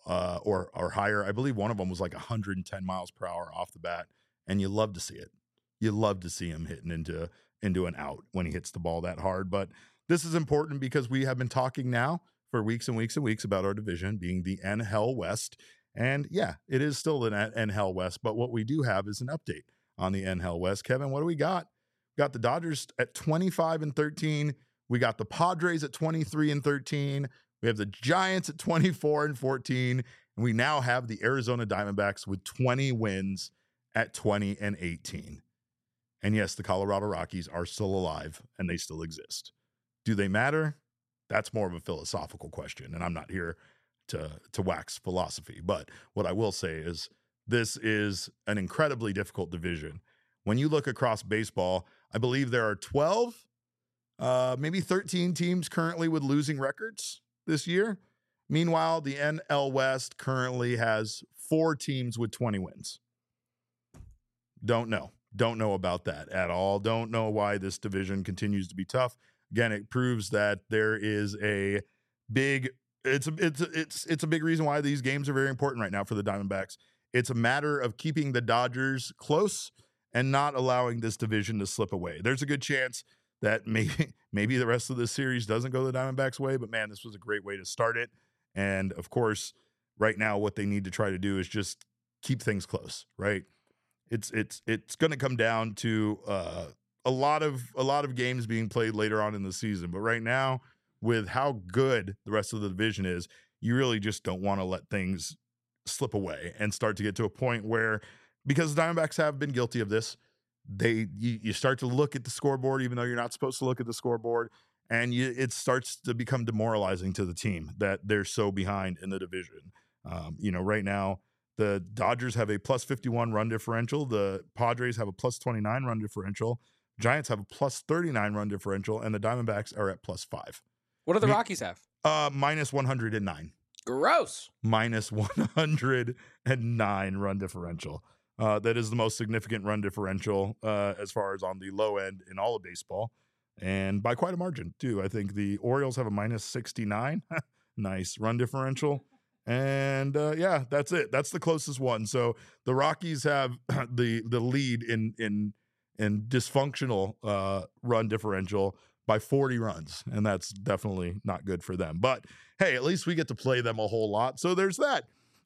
or higher. I believe one of them was like 110 miles per hour off the bat. And you love to see it. You love to see him hitting into an out when he hits the ball that hard. But this is important because we have been talking now for weeks and weeks and weeks about our division being the NL West. And yeah, it is still the NL West. But what we do have is an update on the NL West. Kevin, what do we got? We got the Dodgers at 25-13 We got the Padres at 23-13. We have the Giants at 24-14. And we now have the Arizona Diamondbacks with 20 wins at 20-18. And yes, the Colorado Rockies are still alive and they still exist. Do they matter? That's more of a philosophical question. And I'm not here to wax philosophy. But what I will say is this is an incredibly difficult division. When you look across baseball, I believe there are 12, maybe 13 teams currently with losing records this year. Meanwhile, the NL West currently has 4 teams with 20 wins. Don't know about that at all. Don't know why this division continues to be tough. Again, it proves that there is a big it's a big reason why these games are very important right now for the Diamondbacks. It's a matter of keeping the Dodgers close and not allowing this division to slip away. There's a good chance that maybe the rest of the series doesn't go the Diamondbacks' way, but man, this was a great way to start it. And of course, right now what they need to try to do is just keep things close, right? It's going to come down to a lot of games being played later on in the season, but right now, with how good the rest of the division is, you really just don't want to let things slip away and start to get to a point where, because the Diamondbacks have been guilty of this, you start to look at the scoreboard, even though you're not supposed to look at the scoreboard, and it starts to become demoralizing to the team that they're so behind in the division. Right now, the Dodgers have a plus 51 run differential. The Padres have a plus 29 run differential. Giants have a plus 39 run differential, and the Diamondbacks are at plus 5. What do the Rockies have? Minus 109. Gross. Minus 109 run differential. That is the most significant run differential as far as on the low end in all of baseball, and by quite a margin, too. I think the Orioles have a minus 69. Nice run differential. And that's it. That's the closest one. So the Rockies have the lead in dysfunctional run differential by 40 runs, and that's definitely not good for them. But hey, at least we get to play them a whole lot, so there's that.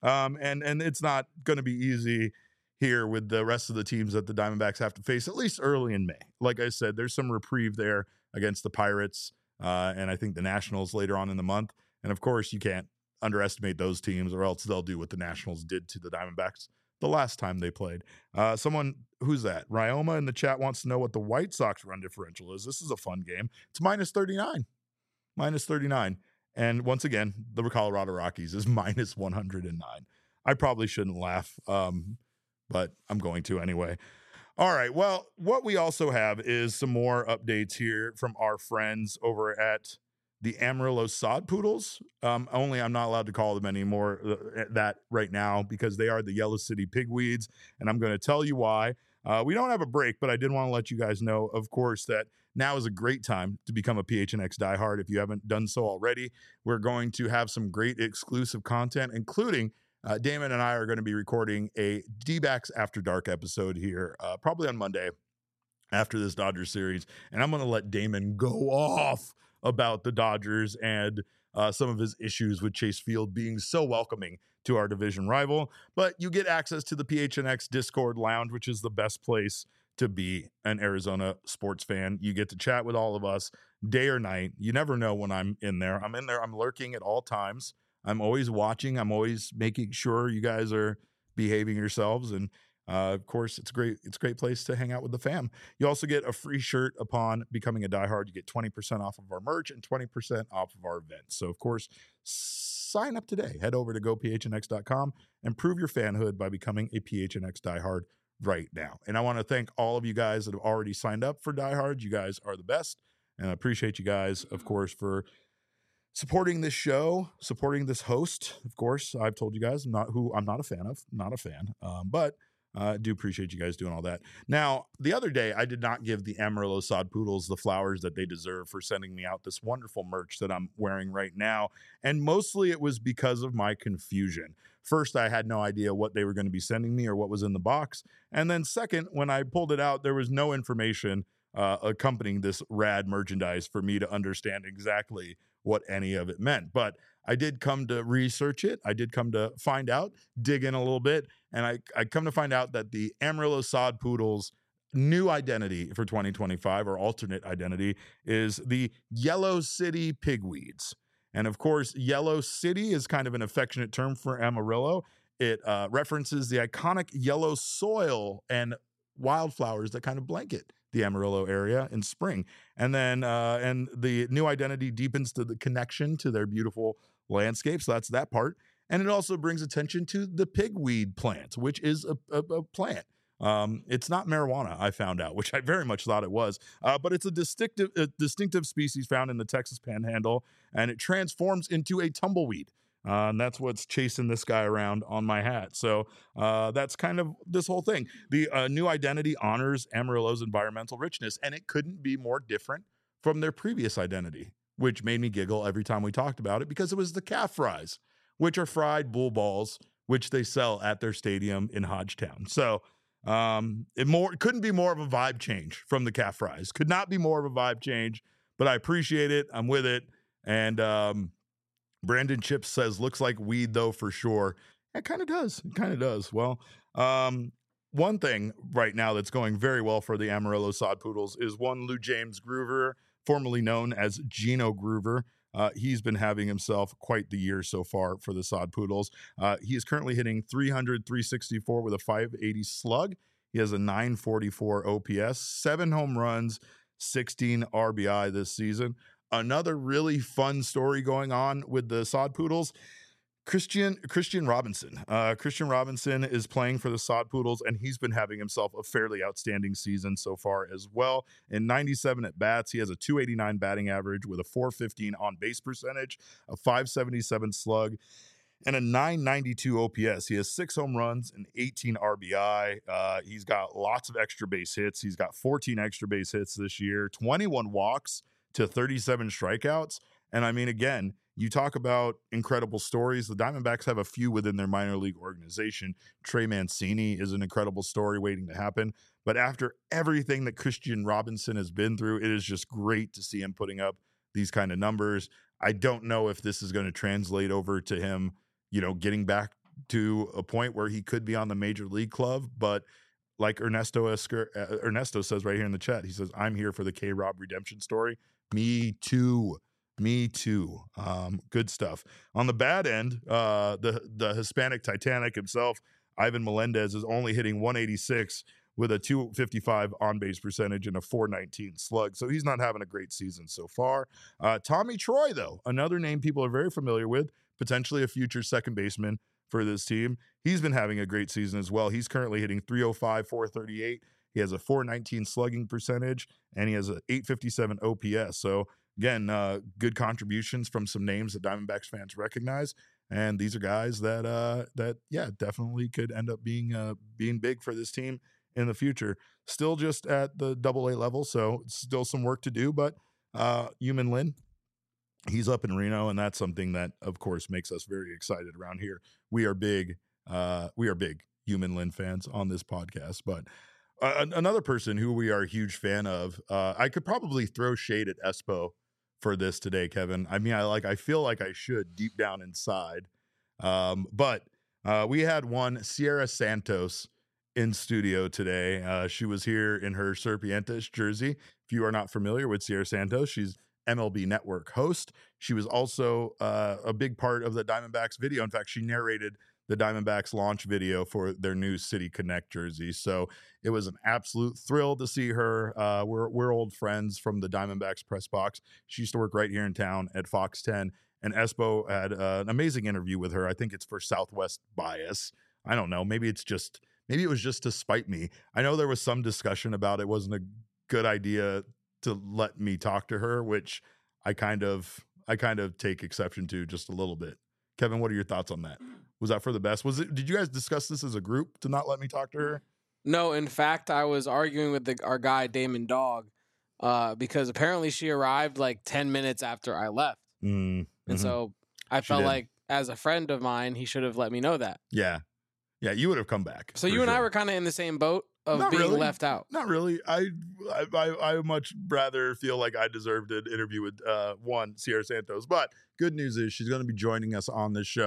And it's not going to be easy here with the rest of the teams that the Diamondbacks have to face, at least early in May. Like I said, there's some reprieve there against the Pirates, and I think the Nationals later on in the month. And of course, you can't underestimate those teams, or else they'll do what the Nationals did to the Diamondbacks the last time they played. Someone, who's that? Ryoma in the chat wants to know what the White Sox run differential is. This is a fun game. It's minus 39. Minus 39. And once again, the Colorado Rockies is minus 109. I probably shouldn't laugh, but I'm going to anyway. All right. Well, what we also have is some more updates here from our friends over at the Amarillo Sod Poodles. Only I'm not allowed to call them anymore that right now because they are the Yellow City Pigweeds, and I'm going to tell you why. We don't have a break, but I did want to let you guys know, of course, that now is a great time to become a PHNX diehard if you haven't done so already. We're going to have some great exclusive content, including Damon and I are going to be recording a D-backs After Dark episode here, probably on Monday after this Dodgers series, and I'm going to let Damon go off about the Dodgers and some of his issues with Chase Field being so welcoming to our division rival. But you get access to the PHNX Discord Lounge, which is the best place to be an Arizona sports fan. You get to chat with all of us day or night. You never know when I'm in there. I'm in there. I'm lurking at all times. I'm always watching. I'm always making sure you guys are behaving yourselves. And of course, it's a great place to hang out with the fam. You also get a free shirt upon becoming a diehard. You get 20% off of our merch and 20% off of our events. So, of course, sign up today. Head over to gophnx.com and prove your fanhood by becoming a PHNX diehard right now. And I want to thank all of you guys that have already signed up for diehards. You guys are the best. And I appreciate you guys, of course, for supporting this show, supporting this host. Of course, I've told you guys I'm not a fan of, but I do appreciate you guys doing all that. Now, the other day, I did not give the Amarillo Sod Poodles the flowers that they deserve for sending me out this wonderful merch that I'm wearing right now. And mostly it was because of my confusion. First, I had no idea what they were going to be sending me or what was in the box. And then second, when I pulled it out, there was no information accompanying this rad merchandise for me to understand exactly what any of it meant. But I did come to research it. I did come to find out, dig in a little bit, and I come to find out that the Amarillo Sod Poodles new identity for 2025, or alternate identity, is the Yellow City Pigweeds. And of course, Yellow City is kind of an affectionate term for Amarillo. It references the iconic yellow soil and wildflowers that kind of blanket the Amarillo area in spring. And then and the new identity deepens to the connection to their beautiful landscapes. So that's that part. And it also brings attention to the pigweed plant, which is a plant. It's not marijuana, I found out, which I very much thought it was, but it's a distinctive species found in the Texas Panhandle, and it transforms into a tumbleweed. And that's what's chasing this guy around on my hat. So that's kind of this whole thing. The new identity honors Amarillo's environmental richness, and it couldn't be more different from their previous identity, which made me giggle every time we talked about it, because it was the calf fries, which are fried bull balls, which they sell at their stadium in Hodgetown. So it couldn't be more of a vibe change from the calf fries. Could not be more of a vibe change, but I appreciate it. I'm with it. And Brandon Chips says, looks like weed though, for sure. It kind of does. It kind of does. Well, one thing right now that's going very well for the Amarillo Sod Poodles is one Lou James Groover, formerly known as Gino Groover. He's been having himself quite the year so far for the Sod Poodles. He is currently hitting 364 with a 580 slug. He has a 944 OPS, 7 home runs, 16 RBI this season. Another really fun story going on with the Sod Poodles. Christian Robinson. Christian Robinson is playing for the Sod Poodles, and he's been having himself a fairly outstanding season so far as well. In 97 at-bats, he has a 289 batting average with a 415 on-base percentage, a 577 slug, and a 992 OPS. He has 6 home runs and 18 RBI. He's got lots of extra base hits. He's got 14 extra base hits this year, 21 walks to 37 strikeouts. And I mean, again, you talk about incredible stories. The Diamondbacks have a few within their minor league organization. Trey Mancini is an incredible story waiting to happen. But after everything that Christian Robinson has been through, it is just great to see him putting up these kind of numbers. I don't know if this is going to translate over to him, getting back to a point where he could be on the major league club. But like Ernesto says right here in the chat, he says, I'm here for the K-Rob redemption story. Me too. Good stuff. On the bad end, the Hispanic Titanic himself, Ivan Melendez, is only hitting 186 with a 255 on-base percentage and a 419 slug. So he's not having a great season so far. Tommy Troy, though, another name people are very familiar with, potentially a future second baseman for this team. He's been having a great season as well. He's currently hitting 305, 438. He has a 419 slugging percentage, and he has an 857 OPS. So again, good contributions from some names that Diamondbacks fans recognize, and these are guys that definitely could end up being big for this team in the future. Still just at the AA level, so still some work to do. But Yumin Lin, he's up in Reno, and that's something that, of course, makes us very excited around here. We are big Yumin Lin fans on this podcast, but. Another person who we are a huge fan of, I could probably throw shade at Espo for this today, Kevin. I mean, I feel like I should deep down inside. But we had one Sierra Santos in studio today. She was here in her Serpientes jersey. If you are not familiar with Sierra Santos, she's MLB Network host. She was also a big part of the Diamondbacks video. In fact, she narrated the Diamondbacks launch video for their new City Connect jersey. So it was an absolute thrill to see her. We're old friends from the Diamondbacks press box. She used to work right here in town at Fox 10, and Espo had an amazing interview with her. I think it's for Southwest Bias. I don't know. Maybe it was just to spite me. I know there was some discussion about it wasn't a good idea to let me talk to her, which I kind of take exception to just a little bit. Kevin, what are your thoughts on that? Was that for the best? Did you guys discuss this as a group to not let me talk to her? No, in fact, I was arguing with our guy Damon Dog because apparently she arrived like 10 minutes after I left. And so I felt like as a friend of mine, he should have let me know that. Yeah, you would have come back. So you and I were kind of in the same boat of not being really. left out. Not really. I much rather feel like I deserved an interview with one Sierra Santos. But good news is she's going to be joining us on this show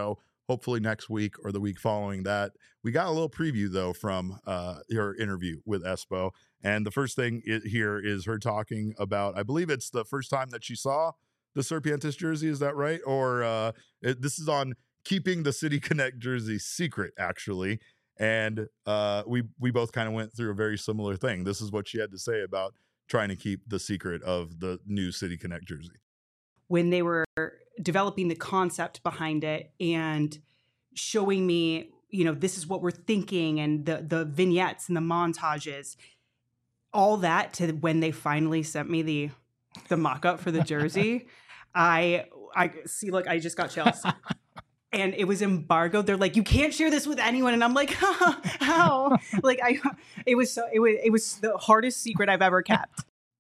hopefully next week or the week following that. We got a little preview, though, from her interview with Espo. And the first thing here is her talking about, I believe it's the first time that she saw the Serpientes jersey. Is that right? Or this is on keeping the City Connect jersey secret, actually. And we both kind of went through a very similar thing. This is what she had to say about trying to keep the secret of the new City Connect jersey. When they were developing the concept behind it and showing me, this is what we're thinking, and the vignettes and the montages, all that, to when they finally sent me the mock-up for the jersey, I see, look, I just got chills. And it was embargoed. They're like, you can't share this with anyone. And I'm like, how? Like, it was the hardest secret I've ever kept.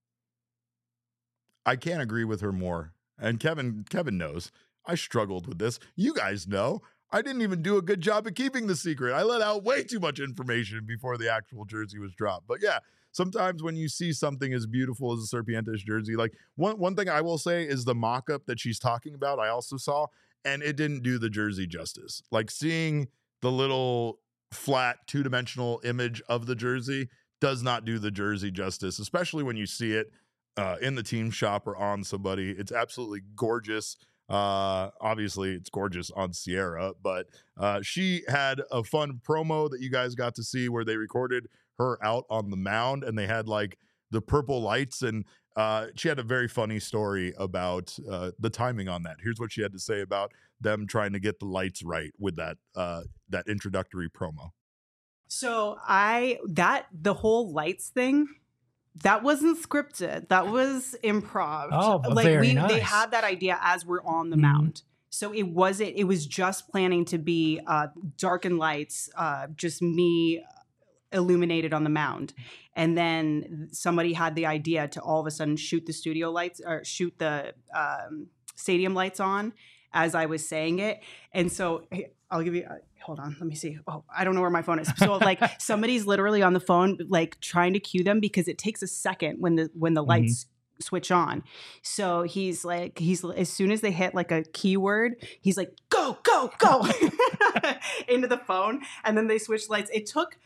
I can't agree with her more. And Kevin knows I struggled with this. You guys know I didn't even do a good job of keeping the secret. I let out way too much information before the actual jersey was dropped. But yeah, sometimes when you see something as beautiful as a Serpientes jersey, like one thing I will say is the mock-up that she's talking about, I also saw, and it didn't do the jersey justice. Like, seeing the little flat two-dimensional image of the jersey does not do the jersey justice, especially when you see it in the team shop or on somebody. It's absolutely gorgeous. Obviously it's gorgeous on Sierra, but she had a fun promo that you guys got to see where they recorded her out on the mound and they had like the purple lights, and she had a very funny story about the timing on that. Here's what she had to say about them trying to get the lights right with that introductory promo. So the whole lights thing, that wasn't scripted. That was improv. Oh, like very nice. They had that idea as we're on the mound. So it was just planning to be darkened lights, just me illuminated on the mound. And then somebody had the idea to all of a sudden shoot the studio lights or shoot the stadium lights on as I was saying it. And so I'll give you, hold on, let me see. Oh, I don't know where my phone is. So like somebody's literally on the phone, like trying to cue them because it takes a second when the lights switch on. So he's as soon as they hit like a keyword, he's like, go, go, go into the phone. And then they switch lights. It took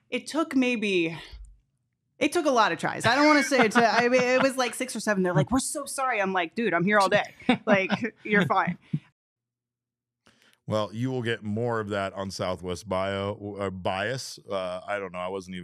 a lot of tries. I don't want to say it. It was like 6 or 7. They're like, we're so sorry. I'm like, dude, I'm here all day. Like, you're fine. Well, you will get more of that on Southwest Bias. I don't know. I was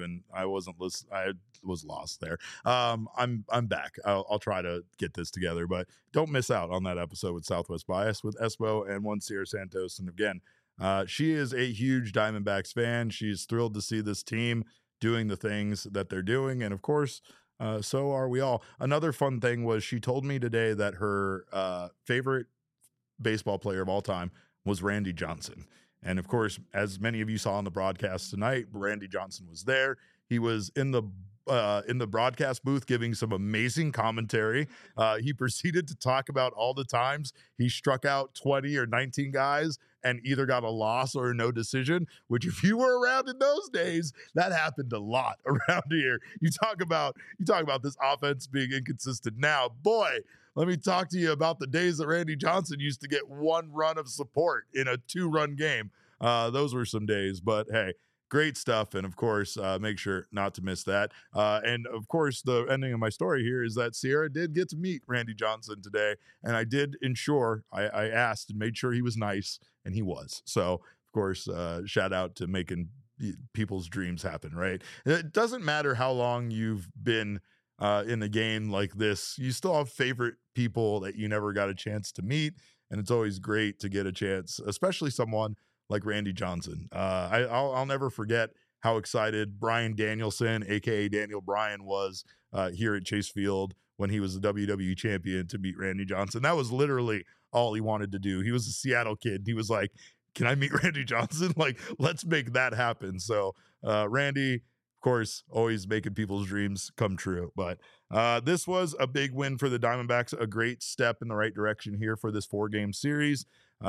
lost there. I'm back. I'll try to get this together, but don't miss out on that episode with Southwest Bias with Espo and one Sierra Santos. And again, she is a huge Diamondbacks fan. She's thrilled to see this team doing the things that they're doing. And of course, so are we all. Another fun thing was she told me today that her favorite baseball player of all time was Randy Johnson. And of course, as many of you saw on the broadcast tonight, Randy Johnson was there. He was in the broadcast booth giving some amazing commentary. He proceeded to talk about all the times he struck out 20 or 19 guys and either got a loss or a no decision, which if you were around in those days, that happened a lot around here. You talk about this offense being inconsistent now. Boy, let me talk to you about the days that Randy Johnson used to get 1 run of support in a 2-run game. Those were some days, but hey, great stuff. And of course, make sure not to miss that. And of course, the ending of my story here is that Sierra did get to meet Randy Johnson today. And I did ensure, I asked and made sure he was nice, and he was. So, of course, shout out to making people's dreams happen, right? It doesn't matter how long you've been in a game like this, you still have favorite people that you never got a chance to meet. And it's always great to get a chance, especially someone like Randy Johnson. I'll never forget how excited Brian Danielson, aka Daniel Bryan, was here at Chase Field when he was the WWE champion to meet Randy Johnson. That was literally all he wanted to do. He was a Seattle kid. He was like, can I meet Randy Johnson? Like, let's make that happen. So Randy, of course, always making people's dreams come true. But this was a big win for the Diamondbacks, a great step in the right direction here for this 4-game series.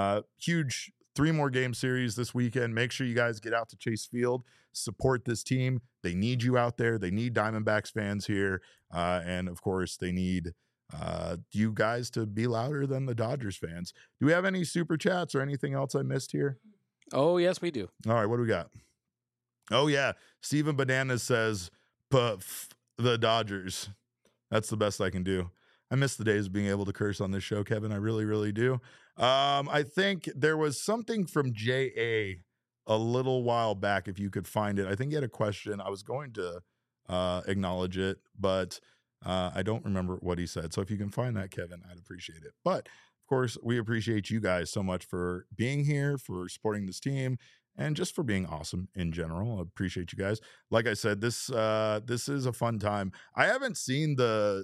Huge 3 more game series this weekend. Make sure you guys get out to Chase Field, support this team. They need you out there. They need Diamondbacks fans here. And of course, they need you guys to be louder than the Dodgers fans. Do we have any super chats or anything else I missed here? Oh, yes, we do. All right, what do we got? Oh, yeah. Steven Bananas says, puff the Dodgers. That's the best I can do. I miss the days of being able to curse on this show, Kevin. I really, really do. I think there was something from J.A. a little while back, if you could find it. I think he had a question. I was going to acknowledge it, but I don't remember what he said. So if you can find that, Kevin, I'd appreciate it. But, of course, we appreciate you guys so much for being here, for supporting this team, and just for being awesome in general. I appreciate you guys. Like I said, this is a fun time. I haven't seen the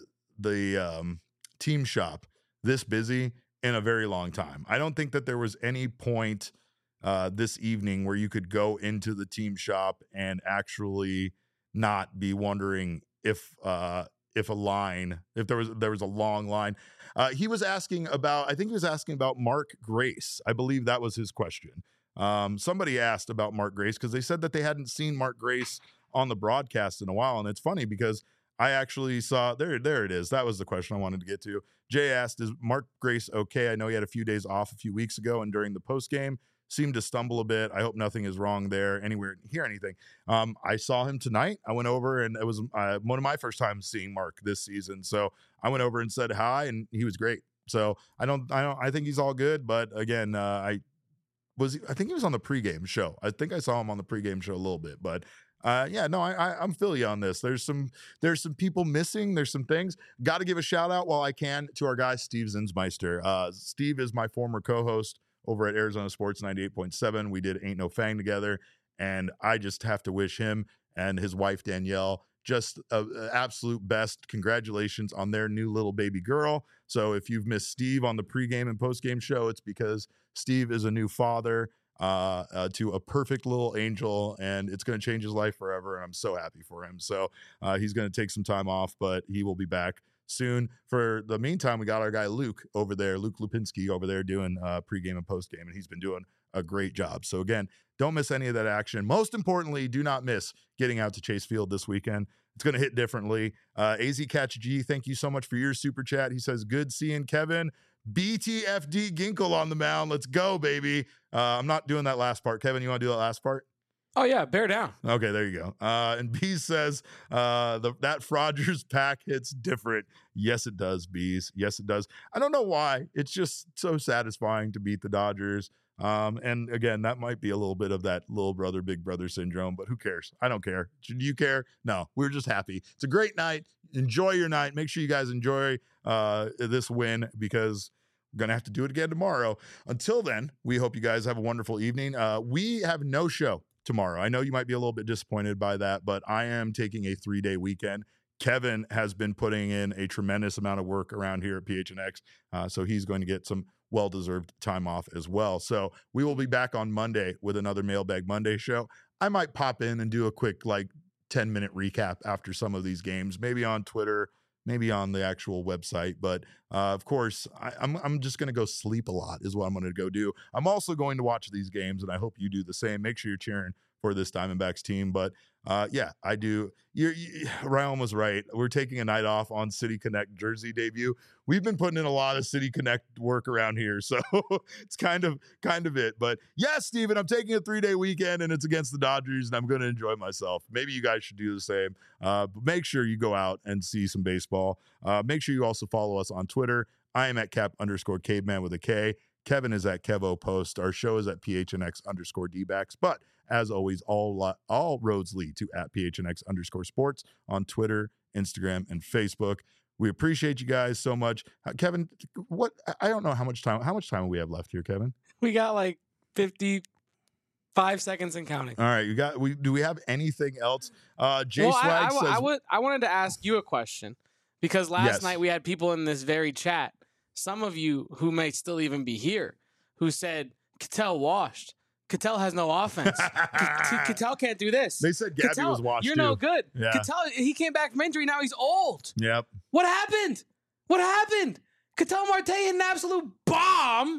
team shop this busy in a very long time. I don't think that there was any point this evening where you could go into the team shop and actually not be wondering if there was a long line. He was asking about Mark Grace. I believe that was his question. Somebody asked about Mark Grace because they said that they hadn't seen Mark Grace on the broadcast in a while. And it's funny because I actually saw there it is. That was the question I wanted to get to. Jay asked, is Mark Grace okay? I know he had a few days off a few weeks ago, and during the post game seemed to stumble a bit. I hope nothing is wrong there, anywhere hear anything. I saw him tonight. I went over, and it was one of my first times seeing Mark this season. So I went over and said hi, and he was great. So I think he's all good. But again, I think he was on the pregame show. I think I saw him on the pregame show a little bit, but I'm feel you on this. There's some people missing. There's some things. Got to give a shout out while I can to our guy, Steve Zinsmeister. Steve is my former co-host over at Arizona Sports 98.7. We did Ain't No Fang together, and I just have to wish him and his wife, Danielle, just absolute best. Congratulations on their new little baby girl. So if you've missed Steve on the pregame and postgame show, it's because Steve is a new father to a perfect little angel, and it's going to change his life forever. And I'm so happy for him. So he's going to take some time off, but he will be back soon. For the meantime, we got our guy Luke over there, Luke Lupinski over there doing pregame and postgame, and he's been doing a great job. So again, don't miss any of that action. Most importantly, do not miss getting out to Chase Field this weekend. It's going to hit differently. AZ Catch G, thank you so much for your super chat. He says, good seeing Kevin. BTFD Ginkle on the mound. Let's go, baby. I'm not doing that last part. Kevin, you want to do that last part? Oh, yeah. Bear down. Okay, there you go. And Bees says, that Frogers pack hits different. Yes, it does, Bees. Yes, it does. I don't know why. It's just so satisfying to beat the Dodgers. And again, that might be a little bit of that little brother, big brother syndrome, but who cares? I don't care. Do you care? No, we're just happy. It's a great night. Enjoy your night. Make sure you guys enjoy this win, because we're going to have to do it again tomorrow. Until then, we hope you guys have a wonderful evening. We have no show tomorrow. I know you might be a little bit disappointed by that, but I am taking a 3-day weekend. Kevin has been putting in a tremendous amount of work around here at PHNX, so he's going to get some well-deserved time off as well. So we will be back on Monday with another Mailbag Monday show. I might pop in and do a quick 10-minute recap after some of these games, maybe on Twitter, maybe on the actual website. But of course, I'm just going to go sleep a lot is what I'm going to go do. I'm also going to watch these games, and I hope you do the same. Make sure you're cheering for this Diamondbacks team. But yeah, I do. Ryan was right. We're taking a night off on City Connect jersey debut. We've been putting in a lot of City Connect work around here, so it's kind of it. But yes, Steven, I'm taking a 3-day weekend, and it's against the Dodgers, and I'm going to enjoy myself. Maybe you guys should do the same. But make sure you go out and see some baseball. Make sure you also follow us on Twitter. I am at Cap_Caveman with a K. Kevin is at Kevo Post. Our show is at PHNX_DBacks. But as always, all roads lead to at PHNX_sports on Twitter, Instagram, and Facebook. We appreciate you guys so much. Kevin, I don't know how much time we have left here, Kevin? We got 55 seconds and counting. All right, do we have anything else? Jay Swag says, I wanted to ask you a question, because last night we had people in this very chat, some of you who may still even be here, who said Ketel washed. Ketel has no offense. Ketel can't do this. They said Gabby was washed. You're too. no good. Yeah. Ketel, he came back from injury. Now he's old. Yep. What happened? Ketel Marte hit an absolute bomb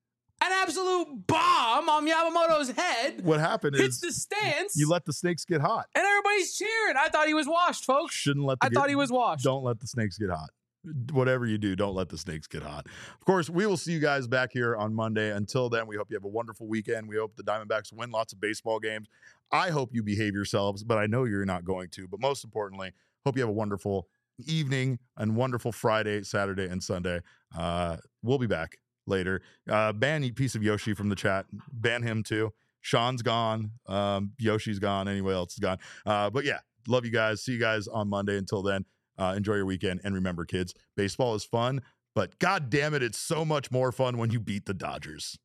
on Yamamoto's head. What happened hits is the stands. You let the snakes get hot, and everybody's cheering. I thought he was washed, folks. Shouldn't let. I thought he was washed. Don't let the snakes get hot. whatever you do, don't let the snakes get hot. Of course, we will see you guys back here on Monday. Until then, we hope you have a wonderful weekend. We hope the Diamondbacks win lots of baseball games. I hope you behave yourselves, but I know you're not going to. But most importantly, hope you have a wonderful evening and wonderful Friday, Saturday, and Sunday. We'll be back later. Ban Eat Piece of Yoshi from the chat. Ban him too. Sean's gone. Yoshi's gone. Anyone else is gone. But yeah, love you guys. See you guys on Monday. Until then, enjoy your weekend. And remember, kids, baseball is fun, but God damn it, it's so much more fun when you beat the Dodgers.